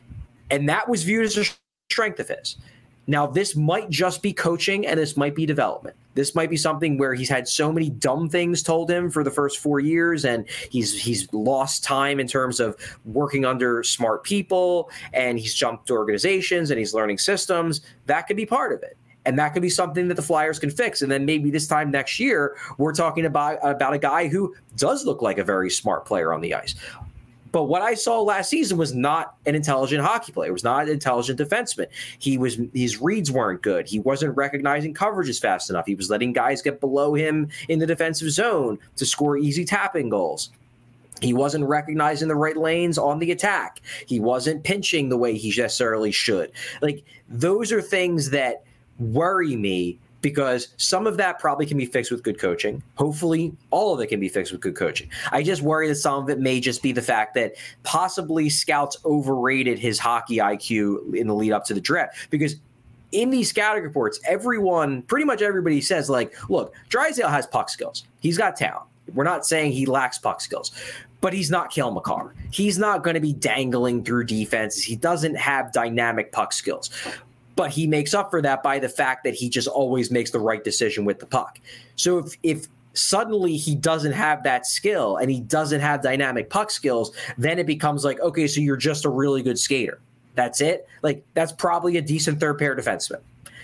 And that was viewed as a strength of his. Now, this might just be coaching, and this might be development. This might be something where he's had so many dumb things told him for the first four years, and he's he's lost time in terms of working under smart people, and he's jumped to organizations, and he's learning systems. That could be part of it. And that could be something that the Flyers can fix. And then maybe this time next year, we're talking about, about a guy who does look like a very smart player on the ice. But what I saw last season was not an intelligent hockey player. It was not an intelligent defenseman. He was his reads weren't good. He wasn't recognizing coverages fast enough. He was letting guys get below him in the defensive zone to score easy tapping goals. He wasn't recognizing the right lanes on the attack. He wasn't pinching the way he necessarily should. Like those are things that worry me, because some of that probably can be fixed with good coaching. Hopefully, all of it can be fixed with good coaching. I just worry that some of it may just be the fact that possibly scouts overrated his hockey I Q in the lead up to the draft. Because in these scouting reports, everyone, pretty much everybody says, like, look, Drysdale has puck skills. He's got talent. We're not saying he lacks puck skills, but he's not Cale Makar. He's not going to be dangling through defenses. He doesn't have dynamic puck skills. But he makes up for that by the fact that he just always makes the right decision with the puck. So if, if suddenly he doesn't have that skill and he doesn't have dynamic puck skills, then it becomes like, okay, so you're just a really good skater. That's it? Like, that's probably a decent third pair defenseman.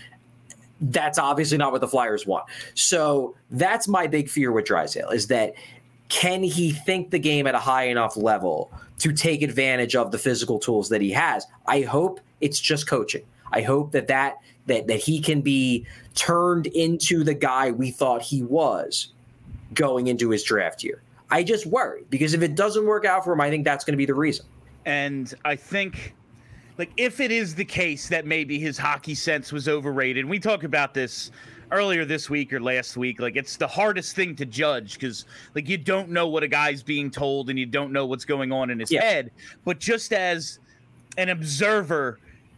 That's obviously not what the Flyers want. So that's my big fear with Drysdale, is that can he think the game at a high enough level to take advantage of the physical tools that he has? I hope it's just coaching. I hope that, that that that he can be turned into the guy we thought he was going into his draft year. I just worry, because if it doesn't work out for him, I think that's going to be the reason. And I think, like, if it is the case that maybe his hockey sense was overrated, we talked about this earlier this week or last week, like, it's the hardest thing to judge because, like, you don't know what a guy's being told and you don't know what's going on in his yeah. head. But just as an observer,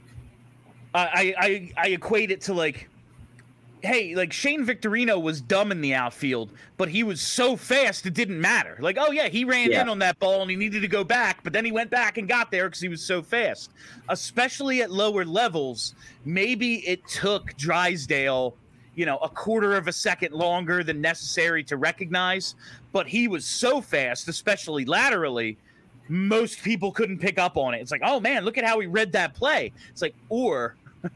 I, I I equate it to, like, hey, like, Shane Victorino was dumb in the outfield, but he was so fast it didn't matter. Like, oh, yeah, he ran yeah. in on that ball and he needed to go back, but then he went back and got there because he was so fast. Especially at lower levels, maybe it took Drysdale, you know, a quarter of a second longer than necessary to recognize, but he was so fast, especially laterally, most people couldn't pick up on it. It's like, oh, man, look at how he read that play. It's like, or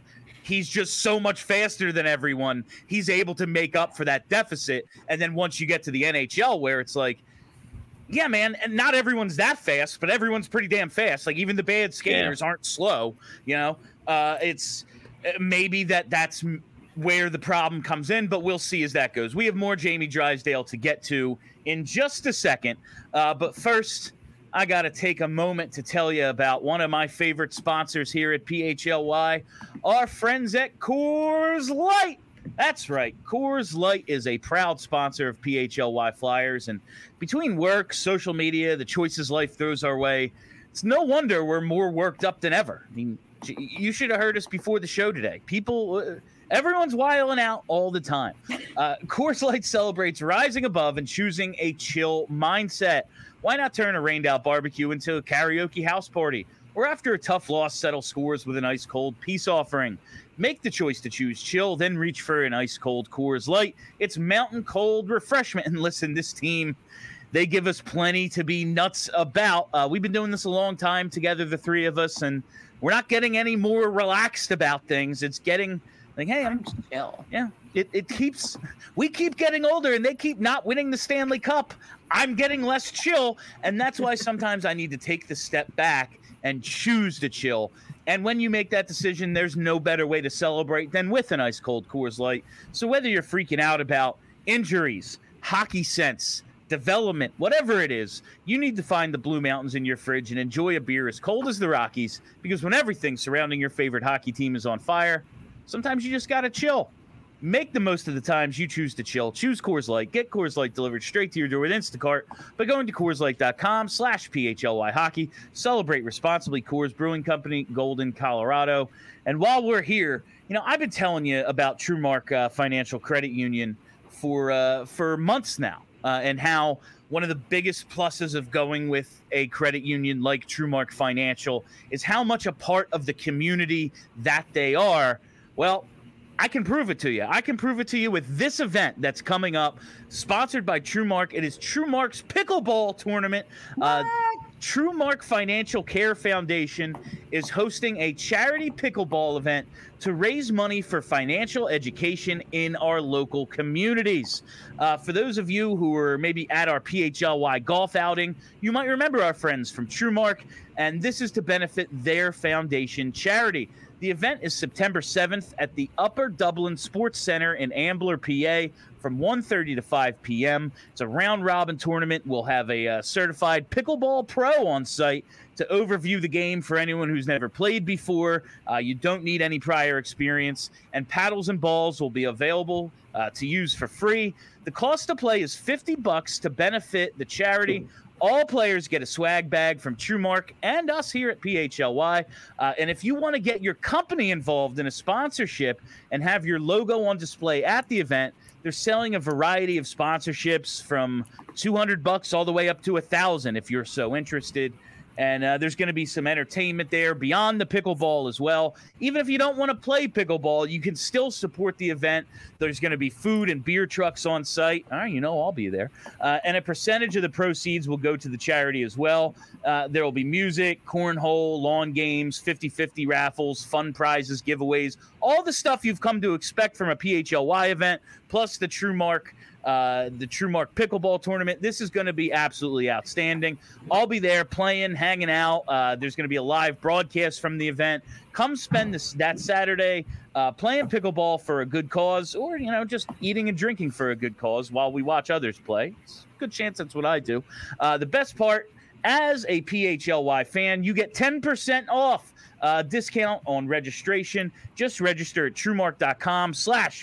he's just so much faster than everyone. He's able to make up for that deficit. And then once you get to the N H L, where it's like, yeah, man, and not everyone's that fast, but everyone's pretty damn fast. Like even the bad skaters yeah. aren't slow. You know, uh, it's maybe that that's where the problem comes in, but we'll see as that goes. We have more Jamie Drysdale to get to in just a second. Uh, but first, I got to take a moment to tell you about one of my favorite sponsors here at P H L Y, our friends at Coors Light. That's right. Coors Light is a proud sponsor of P H L Y Flyers. And between work, social media, the choices life throws our way, it's no wonder we're more worked up than ever. I mean, you should have heard us before the show today. People, uh, everyone's wiling out all the time. Uh, Coors Light celebrates rising above and choosing a chill mindset. Why not turn a rained-out barbecue into a karaoke house party? Or after a tough loss, settle scores with an ice-cold peace offering. Make the choice to choose chill, then reach for an ice-cold Coors Light. It's mountain cold refreshment. And listen, this team, they give us plenty to be nuts about. Uh, we've been doing this a long time together, the three of us, and we're not getting any more relaxed about things. It's getting like, hey, I'm chill. Yeah, it, it keeps, we keep getting older and they keep not winning the Stanley Cup. I'm getting less chill, and that's why sometimes I need to take the step back and choose to chill. And when you make that decision, there's no better way to celebrate than with an ice-cold Coors Light. So whether you're freaking out about injuries, hockey sense, development, whatever it is, you need to find the Blue Mountains in your fridge and enjoy a beer as cold as the Rockies, because when everything surrounding your favorite hockey team is on fire, sometimes you just got to chill. Make the most of the times you choose to chill. Choose Coors Light. Get Coors Light delivered straight to your door with Instacart by going to Coors Light dot com slash P H L Y hockey. Celebrate responsibly. Coors Brewing Company, Golden, Colorado. And while we're here, you know, I've been telling you about TrueMark uh, Financial Credit Union for uh, for months now, uh, and how one of the biggest pluses of going with a credit union like TrueMark Financial is how much a part of the community that they are. Well, I can prove it to you. I can prove it to you with this event that's coming up, sponsored by TrueMark. It is TrueMark's Pickleball Tournament. Uh, TrueMark Financial Care Foundation is hosting a charity pickleball event to raise money for financial education in our local communities. Uh, for those of you who were maybe at our P H L Y golf outing, you might remember our friends from TrueMark, and this is to benefit their foundation charity. The event is September seventh at the Upper Dublin Sports Center in Ambler, P A, from one thirty to five p.m. It's a round-robin tournament. We'll have a uh, certified pickleball pro on site to overview the game for anyone who's never played before. Uh, you don't need any prior experience, and paddles and balls will be available uh, to use for free. The cost to play is fifty bucks to benefit the charity. All players get a swag bag from TrueMark and us here at P H L Y. Uh, and if you want to get your company involved in a sponsorship and have your logo on display at the event, they're selling a variety of sponsorships from two hundred bucks all the way up to one thousand if you're so interested. And uh, there's going to be some entertainment there beyond the pickleball as well. Even if you don't want to play pickleball, you can still support the event. There's going to be food and beer trucks on site. All right, you know I'll be there. Uh, and a percentage of the proceeds will go to the charity as well. Uh, there will be music, cornhole, lawn games, fifty-fifty raffles, fun prizes, giveaways, all the stuff you've come to expect from a P H L Y event, plus the TrueMark Uh, the TrueMark Pickleball Tournament. This is going to be absolutely outstanding. I'll be there playing, hanging out. Uh, there's going to be a live broadcast from the event. Come spend this that Saturday uh, playing pickleball for a good cause, or, you know, just eating and drinking for a good cause while we watch others play. It's a good chance that's what I do. Uh, the best part, as a P H L Y fan, you get ten percent off. Uh, discount on registration. Just register at TrueMark.com slash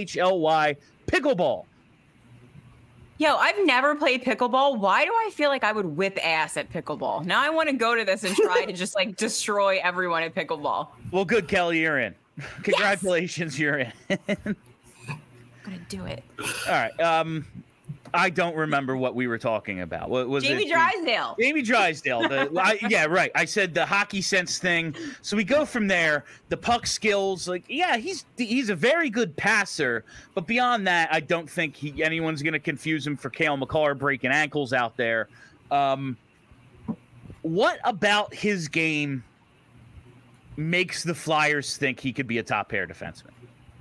PHLY Pickleball. Yo, I've never played pickleball. Why do I feel like I would whip ass at pickleball? Now I want to go to this and try to just like destroy everyone at pickleball. Well, good, Kelly, you're in. Congratulations, yes! You're in. I'm gonna do it. All right. Um, I don't remember what we were talking about. What was Jamie it? Drysdale. Jamie Drysdale. The, I, yeah, right. I said the hockey sense thing. So we go from there. The puck skills, like, yeah, he's he's a very good passer, but beyond that, I don't think he, anyone's going to confuse him for Cale Makar breaking ankles out there. Um, what about his game makes the Flyers think he could be a top pair defenseman?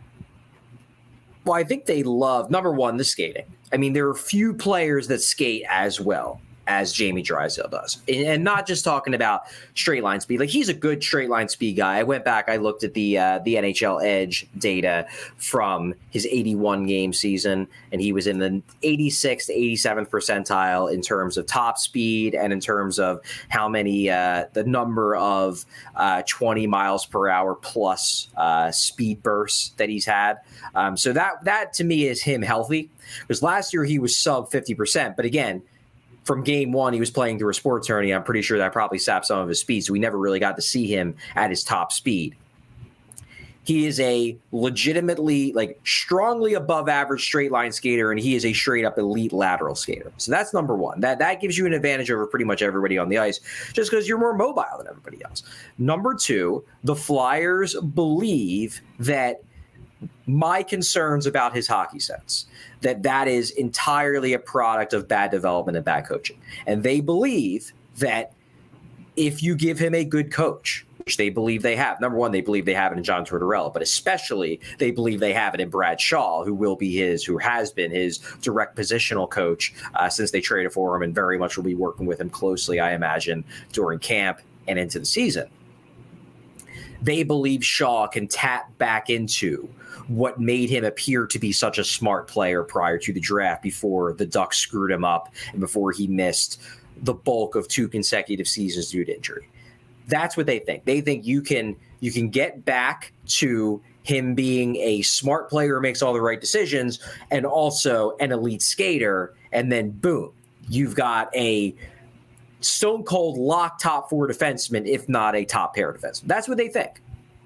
Well, I think they love, number one, the skating. I mean, there are few players that skate as well as Jamie Drysdale does. And, and not just talking about straight line speed. Like, he's a good straight line speed guy. I went back, I looked at the uh, the N H L Edge data from his eighty-one game season, and he was in the eighty-sixth to eighty-seventh percentile in terms of top speed and in terms of how many, uh, the number of uh, twenty miles per hour plus uh, speed bursts that he's had. Um, so that, that to me is him healthy. Because last year he was sub fifty percent. But again, from game one, he was playing through a sports hernia. I'm pretty sure that probably sapped some of his speed. So we never really got to see him at his top speed. He is a legitimately, like, strongly above average straight line skater, and he is a straight up elite lateral skater. So that's number one. That that gives you an advantage over pretty much everybody on the ice, just because you're more mobile than everybody else. Number two, the Flyers believe that my concerns about his hockey sense, that that is entirely a product of bad development and bad coaching. And they believe that if you give him a good coach, which they believe they have, number one, they believe they have it in John Tortorella, but especially they believe they have it in Brad Shaw, who will be his, who has been his direct positional coach uh, since they traded for him, and very much will be working with him closely, I imagine, during camp and into the season. They believe Shaw can tap back into what made him appear to be such a smart player prior to the draft, before the Ducks screwed him up and before he missed the bulk of two consecutive seasons due to injury. That's what they think. They think you can you can get back to him being a smart player who makes all the right decisions and also an elite skater, and then boom, you've got a stone cold lock top four defenseman, if not a top pair defenseman. That's what they think.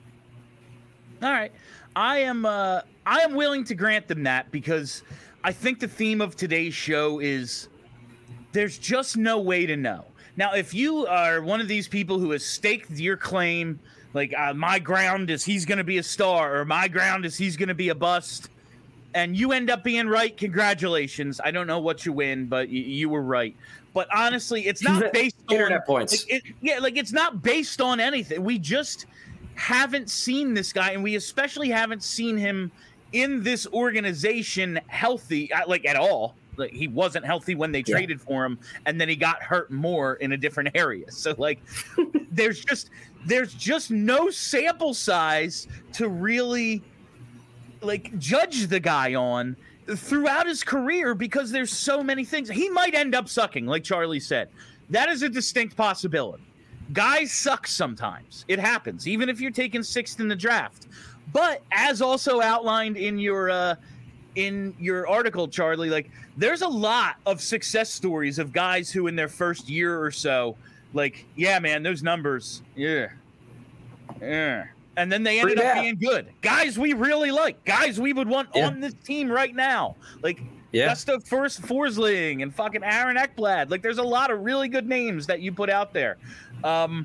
All right. I am uh, I am willing to grant them that, because I think the theme of today's show is there's just no way to know. Now, if you are one of these people who has staked your claim, like uh, my ground is he's going to be a star, or my ground is he's going to be a bust, and you end up being right, congratulations. I don't know what you win, but y- you were right. But honestly, it's not based on internet points. Like, it, yeah, like it's not based on anything. We just haven't seen this guy, and we especially haven't seen him in this organization healthy, like at all. Like, he wasn't healthy when they yeah. traded for him, and then he got hurt more in a different area. So like, there's just there's just no sample size to really like judge the guy on throughout his career, because there's so many things. He might end up sucking, like Charlie said. That is a distinct possibility. Guys suck sometimes. It happens, even if you're taking sixth in the draft. But as also outlined in your uh, in your article, Charlie, like, there's a lot of success stories of guys who in their first year or so, like, yeah, man, those numbers, yeah, yeah. And then they ended Pretty up bad. being good. Guys we really like. Guys we would want Yeah. on this team right now. Like, Yeah. Gustav First Forsling and fucking Aaron Ekblad. Like, there's a lot of really good names that you put out there. Um,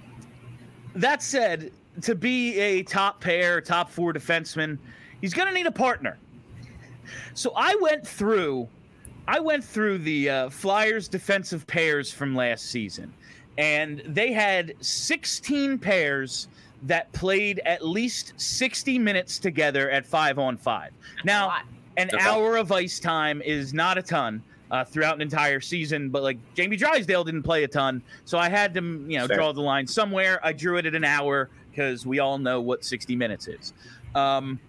that said, to be a top pair, top four defenseman, he's going to need a partner. So I went through, I went through the uh, Flyers defensive pairs from last season, and they had sixteen pairs that played at least sixty minutes together at five on five. Now, an Okay. hour of ice time is not a ton uh, throughout an entire season, but like Jamie Drysdale didn't play a ton, so I had to, you know, Fair. draw the line somewhere. I drew it at an hour because we all know what sixty minutes is. Um,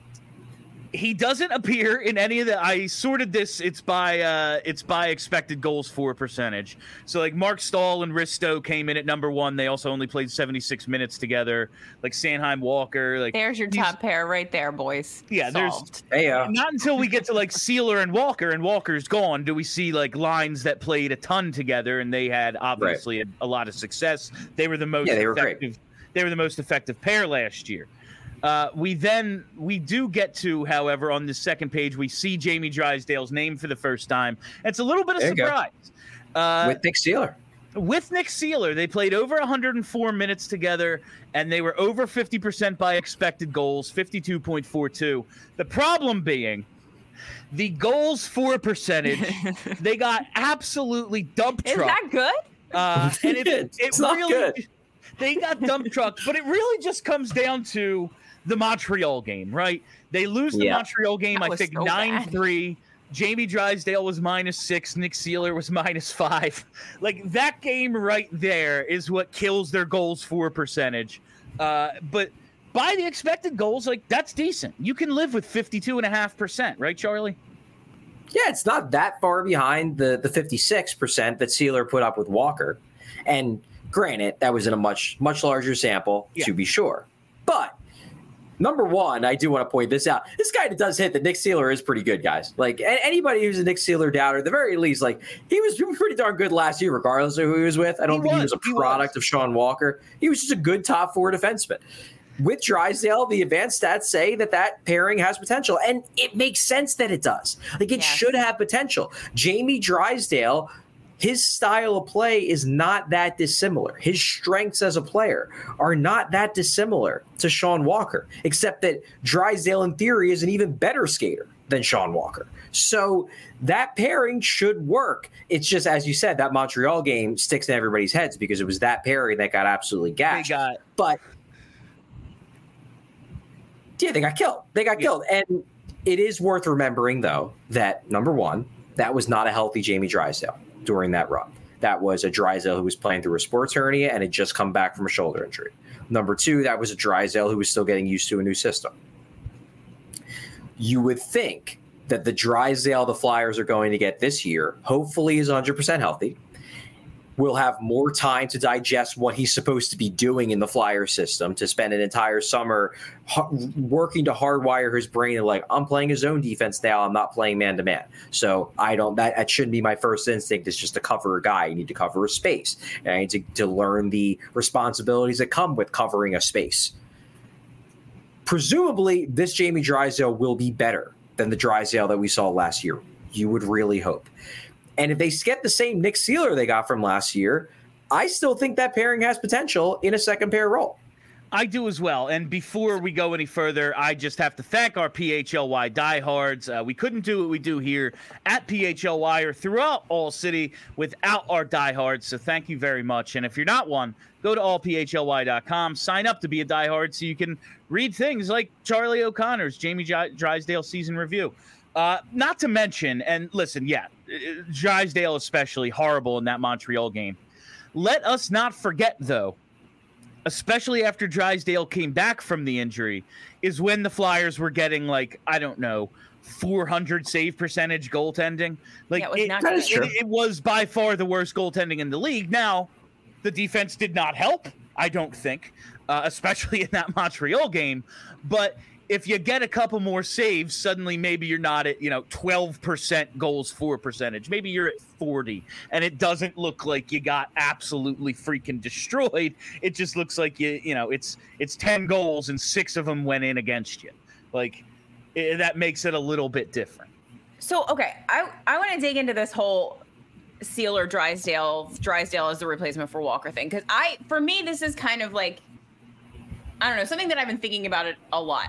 he doesn't appear in any of the. I sorted this. It's by uh, it's by expected goals for percentage. So like Mark Stahl and Risto came in at number one. They also only played seventy-six minutes together. Like Sanheim, Walker. Like There's your these- top pair right there, boys. Yeah, there's- Solved. Hey, uh, Not until we get to like Sealer and Walker, and Walker's gone, do we see like lines that played a ton together, and they had obviously a, a lot of success. They were the most Yeah, they were great. effective. They were the most effective pair last year. Uh, we then we do get to, however, on the second page, we see Jamie Drysdale's name for the first time. It's a little bit of There you go. surprise. Uh, with Nick Sealer. with Nick Sealer, they played over one hundred four minutes together, and they were over fifty percent by expected goals, fifty-two point four two. The problem being the goals for percentage, they got absolutely dump Is trucked. that good? Uh, and it, it It's not really, good. they got dump trucked, but it really just comes down to the Montreal game, right? They lose the Yeah. Montreal game, That I was think so nine three. Jamie Drysdale was minus six. Nick Seeler was minus five. Like, that game right there is what kills their goals for percentage. Uh, but by the expected goals, like, that's decent. You can live with fifty-two point five percent, right, Charlie? Yeah, it's not that far behind the, the fifty-six percent that Sealer put up with Walker. And granted, that was in a much, much larger sample, Yeah. to be sure. But number one, I do want to point this out. This guy that does hit that Nick Seeler is pretty good, guys. Like, a- anybody who's a Nick Seeler doubter, at the very least, like, he was pretty darn good last year, regardless of who he was with. I don't He think he was, was a he product was. of Sean Walker. He was just a good top four defenseman. With Drysdale, the advanced stats say that that pairing has potential, and it makes sense that it does. Like, it Yes. should have potential. Jamie Drysdale, his style of play is not that dissimilar. His strengths as a player are not that dissimilar to Sean Walker, except that Drysdale, in theory, is an even better skater than Sean Walker. So that pairing should work. It's just, as you said, that Montreal game sticks in everybody's heads because it was that pairing that got absolutely They gashed. got But yeah, they got killed. They got Yeah. killed. And it is worth remembering, though, that number one, that was not a healthy Jamie Drysdale during that run. That was a Drysdale who was playing through a sports hernia and had just come back from a shoulder injury. Number two, that was a Drysdale who was still getting used to a new system. You would think that the Drysdale the Flyers are going to get this year, hopefully, is one hundred percent healthy. Will have more time to digest what he's supposed to be doing in the Flyer system, to spend an entire summer h- working to hardwire his brain and like, I'm playing a zone defense now. I'm not playing man to man. So I don't, that, that shouldn't be my first instinct, is just to cover a guy. You need to cover a space. And I need to, to learn the responsibilities that come with covering a space. Presumably, this Jamie Drysdale will be better than the Drysdale that we saw last year. You would really hope. And if they get the same Nick Seeler they got from last year, I still think that pairing has potential in a second pair role. I do as well. And before we go any further, I just have to thank our P H L Y diehards. Uh, we couldn't do what we do here at P H L Y or throughout All City without our diehards. So thank you very much. And if you're not one, go to all p h l y dot com, sign up to be a diehard so you can read things like Charlie O'Connor's Jamie J- Drysdale season review. Uh, not to mention, and listen, yeah, Drysdale especially horrible in that Montreal game. Let us not forget, though, especially after Drysdale came back from the injury, is when the Flyers were getting, like, I don't know, four hundred save percentage goaltending. Like, Yeah, it was it, not That good. is true. it, it was by far the worst goaltending in the league. Now, the defense did not help, I don't think, uh, especially in that Montreal game. But if you get a couple more saves, suddenly maybe you're not at, you know, twelve percent goals for percentage. Maybe you're at forty, and it doesn't look like you got absolutely freaking destroyed. It just looks like you, you know, it's it's ten goals and six of them went in against you. Like, it, that makes it a little bit different. So, okay, I, I want to dig into this whole Sealer Drysdale, Drysdale as the replacement for Walker thing. Because I, for me, this is kind of like, I don't know, something that I've been thinking about it a lot.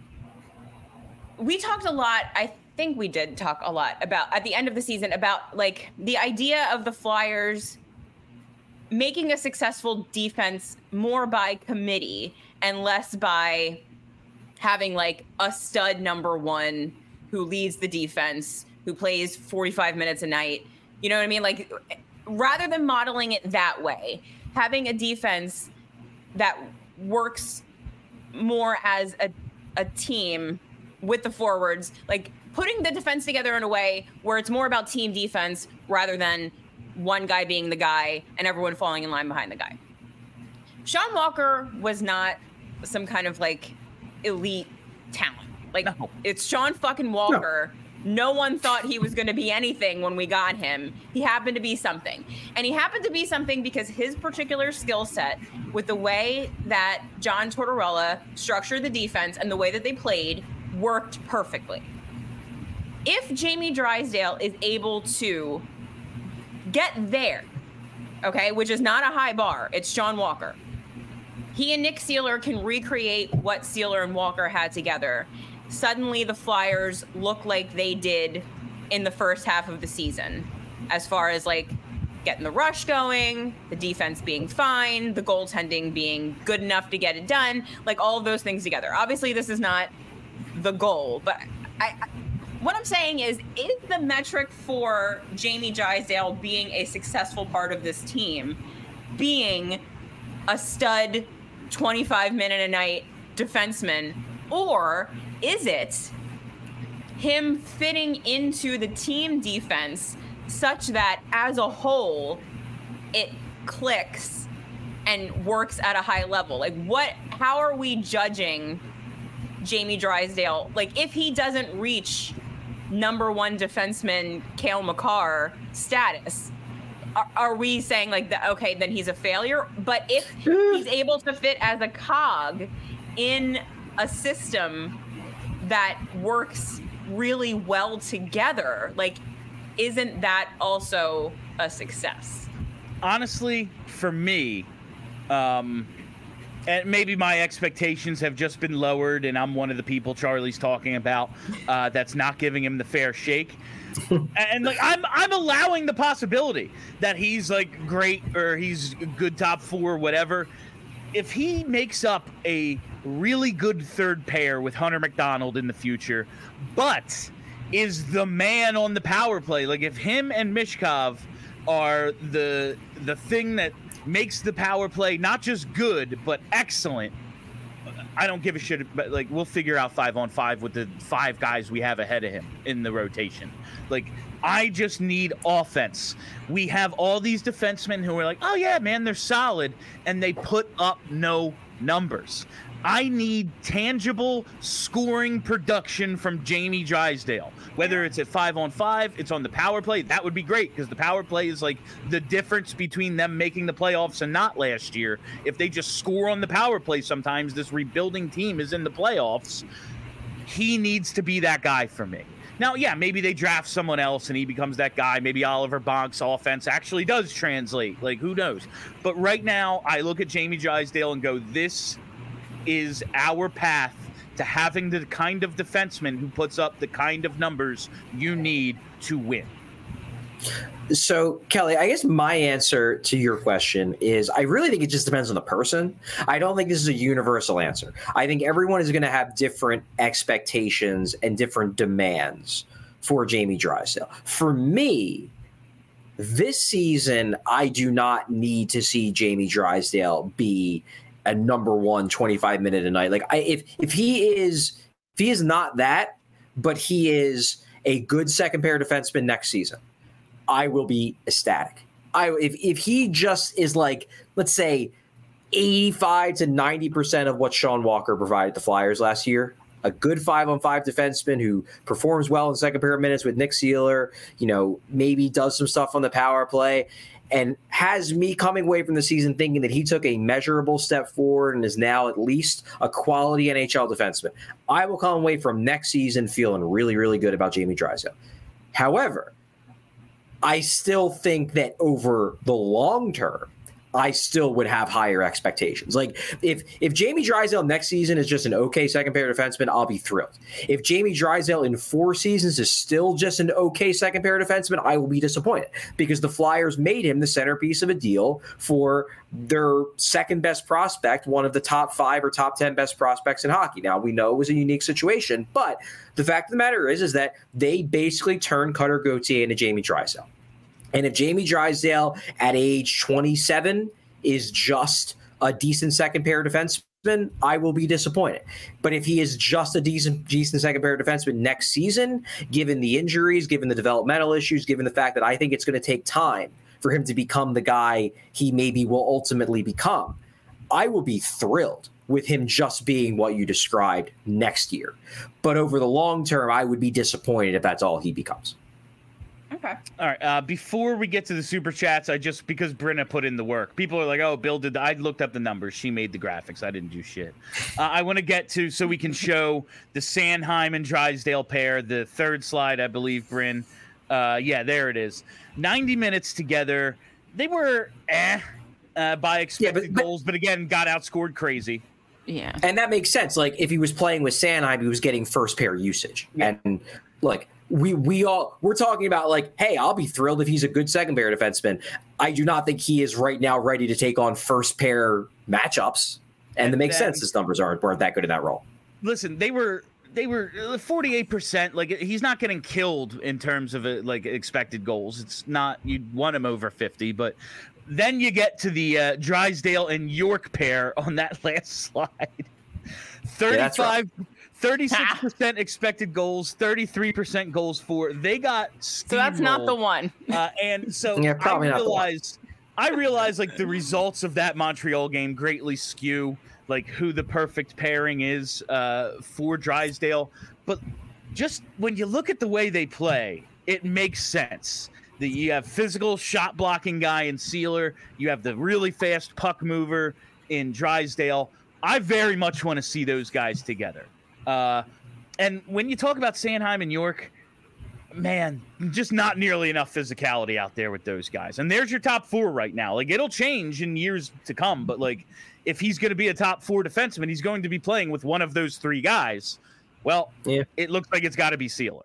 We talked a lot, I think we did talk a lot about, at the end of the season, about like the idea of the Flyers making a successful defense more by committee and less by having like a stud number one who leads the defense, who plays forty-five minutes a night. You know what I mean? Like, rather than modeling it that way, having a defense that works more as a, a team with the forwards, like putting the defense together in a way where it's more about team defense rather than one guy being the guy and everyone falling in line behind the guy. Sean Walker was not some kind of like elite talent. Like, No. it's Sean fucking Walker. No. no one thought he was going to be anything when we got him. He happened to be something. And he happened to be something because his particular skill set with the way that John Tortorella structured the defense and the way that they played worked perfectly. If Jamie Drysdale is able to get there, okay, which is not a high bar, it's Sean Walker. He and Nick Seeler can recreate what Seeler and Walker had together. Suddenly the Flyers look like they did in the first half of the season, as far as like getting the rush going, the defense being fine, the goaltending being good enough to get it done, like all of those things together. Obviously, this is not the goal, but I, I what I'm saying is, is the metric for Jamie Drysdale being a successful part of this team being a stud twenty-five minute a night defenseman, or is it him fitting into the team defense such that as a whole it clicks and works at a high level? Like, what, how are we judging Jamie Drysdale? Like, if he doesn't reach number one defenseman Cale Makar status, are, are we saying like that, okay, then he's a failure? But if he's able to fit as a cog in a system that works really well together, like, isn't that also a success? Honestly, for me, um, and maybe my expectations have just been lowered, and I'm one of the people Charlie's talking about uh, that's not giving him the fair shake. And like I'm, I'm allowing the possibility that he's like great or he's good top four, whatever. If he makes up a really good third pair with Hunter McDonald in the future, but is the man on the power play, like if him and Mishkov are the the thing that makes the power play not just good but excellent, I don't give a shit. But like, we'll figure out five on five with the five guys we have ahead of him in the rotation. Like, I just need offense. We have all these defensemen who are like, oh yeah, man, they're solid, and they put up no numbers. I need tangible scoring production from Jamie Drysdale. Whether it's at five on five, it's on the power play, that would be great, because the power play is like the difference between them making the playoffs and not last year. If they just score on the power play sometimes, this rebuilding team is in the playoffs. He needs to be that guy for me. Now, yeah, maybe they draft someone else and he becomes that guy. Maybe Oliver Bonk's offense actually does translate. Like, who knows? But right now, I look at Jamie Drysdale and go, this is our path to having the kind of defenseman who puts up the kind of numbers you need to win. So, Kelly, I guess my answer to your question is I really think it just depends on the person. I don't think this is a universal answer. I think everyone is going to have different expectations and different demands for Jamie Drysdale. For me, this season, I do not need to see Jamie Drysdale be a number one twenty-five minute a night. Like, I, if if he is if he is not that, but he is a good second pair defenseman next season, I will be ecstatic. I if if he just is like, let's say, eighty-five to ninety percent of what Sean Walker provided the Flyers last year, a good five on five defenseman who performs well in second pair minutes with Nick Seeler, you know, maybe does some stuff on the power play, and has me coming away from the season thinking that he took a measurable step forward and is now at least a quality N H L defenseman. I will come away from next season feeling really, really good about Jamie Drysdale. However, I still think that over the long term, I still would have higher expectations. Like, if if Jamie Drysdale next season is just an okay second pair defenseman, I'll be thrilled. If Jamie Drysdale in four seasons is still just an okay second pair defenseman, I will be disappointed, because the Flyers made him the centerpiece of a deal for their second best prospect, one of the top five or top ten best prospects in hockey. Now, we know it was a unique situation, but the fact of the matter is, is that they basically turned Cutter Gauthier into Jamie Drysdale. And if Jamie Drysdale at age twenty-seven is just a decent second pair defenseman, I will be disappointed. But if he is just a decent, decent second pair defenseman next season, given the injuries, given the developmental issues, given the fact that I think it's going to take time for him to become the guy he maybe will ultimately become, I will be thrilled with him just being what you described next year. But over the long term, I would be disappointed if that's all he becomes. Okay. All right. Uh, before we get to the super chats, I just, because Brenna put in the work, people are like, oh, Bill did. The, I looked up the numbers. She made the graphics. I didn't do shit. Uh, I want to get to, so we can show the Sanheim and Drysdale pair, the third slide, I believe, Bryn. Uh, yeah, there it is. ninety minutes together. They were eh uh, by expected yeah, but, but, goals, but again, got outscored crazy. Yeah. And that makes sense. Like, if he was playing with Sanheim, he was getting first pair usage. Yeah. And look, we we all we're talking about like, hey, I'll be thrilled if he's a good second pair defenseman. I do not think he is right now ready to take on first pair matchups, and, and it makes then, sense his numbers aren't weren't that good in that role. Listen, they were they were forty-eight percent. Like, he's not getting killed in terms of a, like expected goals. It's not, you'd want him over fifty, but then you get to the uh, Drysdale and York pair on that last slide. thirty-five. Yeah, right. thirty-six percent expected goals, thirty-three percent goals for. They got steamrolled. So that's not the one. Uh, and so yeah, probably I not realize, I realize like the results of that Montreal game greatly skew like who the perfect pairing is uh, for Drysdale. But just when you look at the way they play, it makes sense. That you have physical shot blocking guy in Sealer. You have the really fast puck mover in Drysdale. I very much want to see those guys together. Uh, and when you talk about Sanheim and York, man, just not nearly enough physicality out there with those guys. And there's your top four right now. Like, it'll change in years to come, but like, if he's going to be a top four defenseman, he's going to be playing with one of those three guys. Well, yeah. It looks like it's got to be Sealer.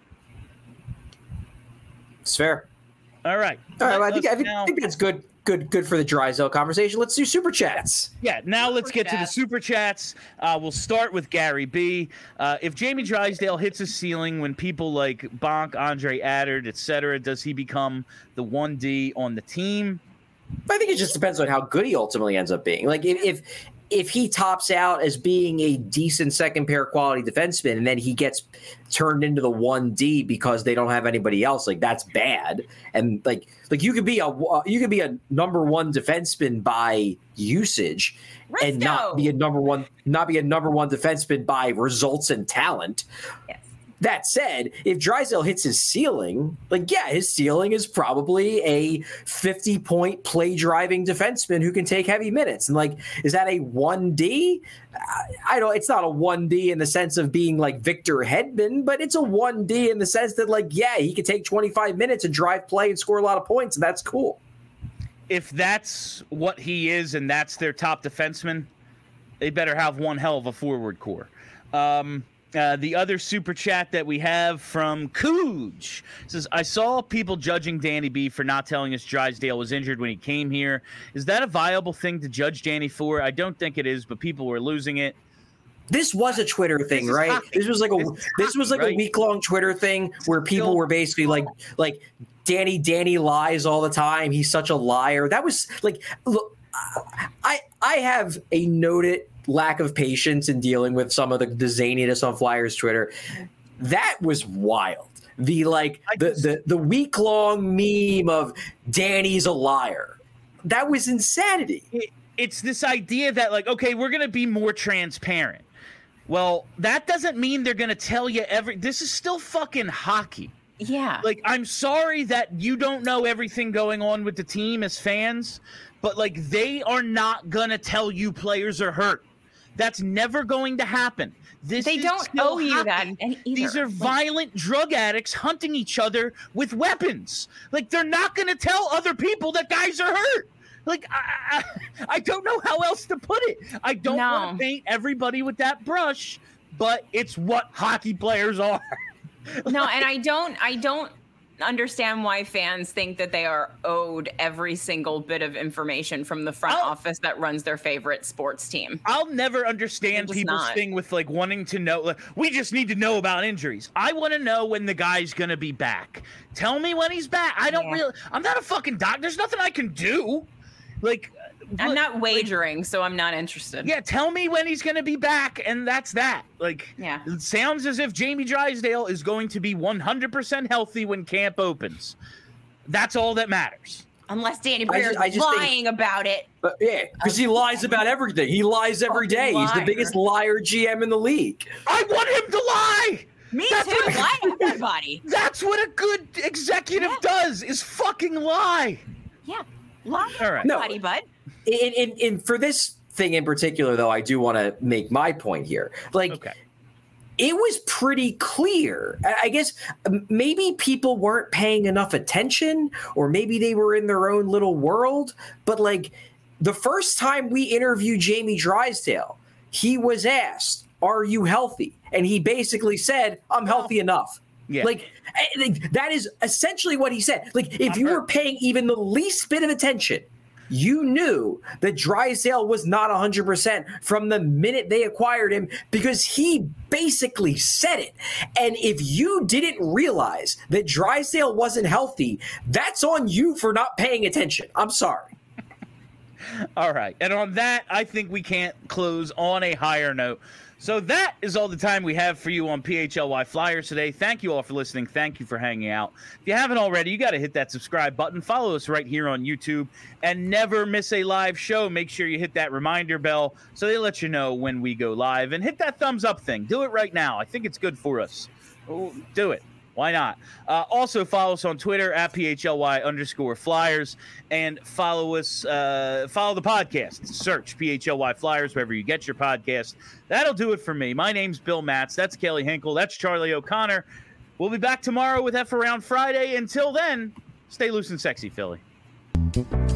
It's fair. All right. All right. Well, I think, I think, now, I think that's good. Good, good for the Drysdale conversation. Let's do super chats. Yeah, now let's get to the super chats. Uh, we'll start with Gary B. Uh, if Jamie Drysdale hits a ceiling when people like Bonk, Andre Addard, et cetera, does he become the one D on the team? I think it just depends on how good he ultimately ends up being. Like if if, if he tops out as being a decent second pair quality defenseman and then he gets turned into the one D because they don't have anybody else, like that's bad. And like like you could be a you could be a number one defenseman by usage Let's and go. not be a number one not be a number one defenseman by results and talent. Yes. That said, if Drysdale hits his ceiling, like, yeah, his ceiling is probably a fifty-point play-driving defenseman who can take heavy minutes. And, like, is that a one D? I don't – it's not a one D in the sense of being, like, Victor Hedman, but it's a one D in the sense that, like, yeah, he could take twenty-five minutes and drive play and score a lot of points, and that's cool. If that's what he is and that's their top defenseman, they better have one hell of a forward core. Um Uh, the other super chat that we have from Cooge says, I saw people judging Danny B for not telling us Drysdale was injured when he came here. Is that a viable thing to judge Danny for? I don't think it is, but people were losing it. This was a Twitter thing, right? Hockey. This was like a this, this hockey, was like right? a week long Twitter thing where people Still, were basically like like Danny Danny lies all the time. He's such a liar. That was like, look, I I have a noted lack of patience in dealing with some of the, the zaniness on Flyers Twitter. That was wild. The like the the, the week long meme of Danny's a liar. That was insanity. It, it's this idea that like, okay, we're gonna be more transparent. Well, that doesn't mean they're gonna tell you every. This is still fucking hockey. Yeah. Like, I'm sorry that you don't know everything going on with the team as fans, but like, they are not gonna tell you players are hurt. That's never going to happen. This they is don't owe you hockey. that either. These are like, violent drug addicts hunting each other with weapons. Like, they're not going to tell other people that guys are hurt. Like, I, I, I don't know how else to put it. I don't no. want to paint everybody with that brush, but it's what hockey players are. No, and I don't, I don't understand why fans think that they are owed every single bit of information from the front I'll, office that runs their favorite sports team. I'll never understand people's not. thing with like wanting to know, like, we just need to know about injuries. I want to know when the guy's going to be back. Tell me when he's back. I don't yeah. really, I'm not a fucking doc. There's nothing I can do. Like, I'm not wagering, like, so I'm not interested. Yeah, tell me when he's going to be back, and that's that. Like, yeah. It sounds as if Jamie Drysdale is going to be one hundred percent healthy when camp opens. That's all that matters. Unless Danny Briere is lying think, about it. But yeah, because he lies about everything. He lies every day. Liar. He's the biggest liar G M in the league. I want him to lie! Me that's too. What, lie to everybody. That's what a good executive yeah. does, is fucking lie. Yeah. Lie to all right. everybody, no. bud. In, in, in, for this thing in particular, though, I do want to make my point here. Like, okay. It was pretty clear. I guess maybe people weren't paying enough attention, or maybe they were in their own little world. But, like, the first time we interviewed Jamie Drysdale, he was asked, are you healthy? And he basically said, I'm healthy enough. Yeah. Like, like that is essentially what he said. Like if you were paying even the least bit of attention, you knew that Drysdale was not one hundred percent from the minute they acquired him because he basically said it. And if you didn't realize that Drysdale wasn't healthy, that's on you for not paying attention. I'm sorry. All right. And on that, I think we can't close on a higher note. So that is all the time we have for you on P H L Y Flyers today. Thank you all for listening. Thank you for hanging out. If you haven't already, you got to hit that subscribe button. Follow us right here on YouTube and never miss a live show. Make sure you hit that reminder bell so they let you know when we go live. And hit that thumbs up thing. Do it right now. I think it's good for us. Do it. Why not? Uh, also, follow us on Twitter at P H L Y underscore Flyers and follow us, uh, follow the podcast. Search P H L Y Flyers wherever you get your podcast. That'll do it for me. My name's Bill Matz. That's Kelly Hinkle. That's Charlie O'Connor. We'll be back tomorrow with F Around Friday. Until then, stay loose and sexy, Philly.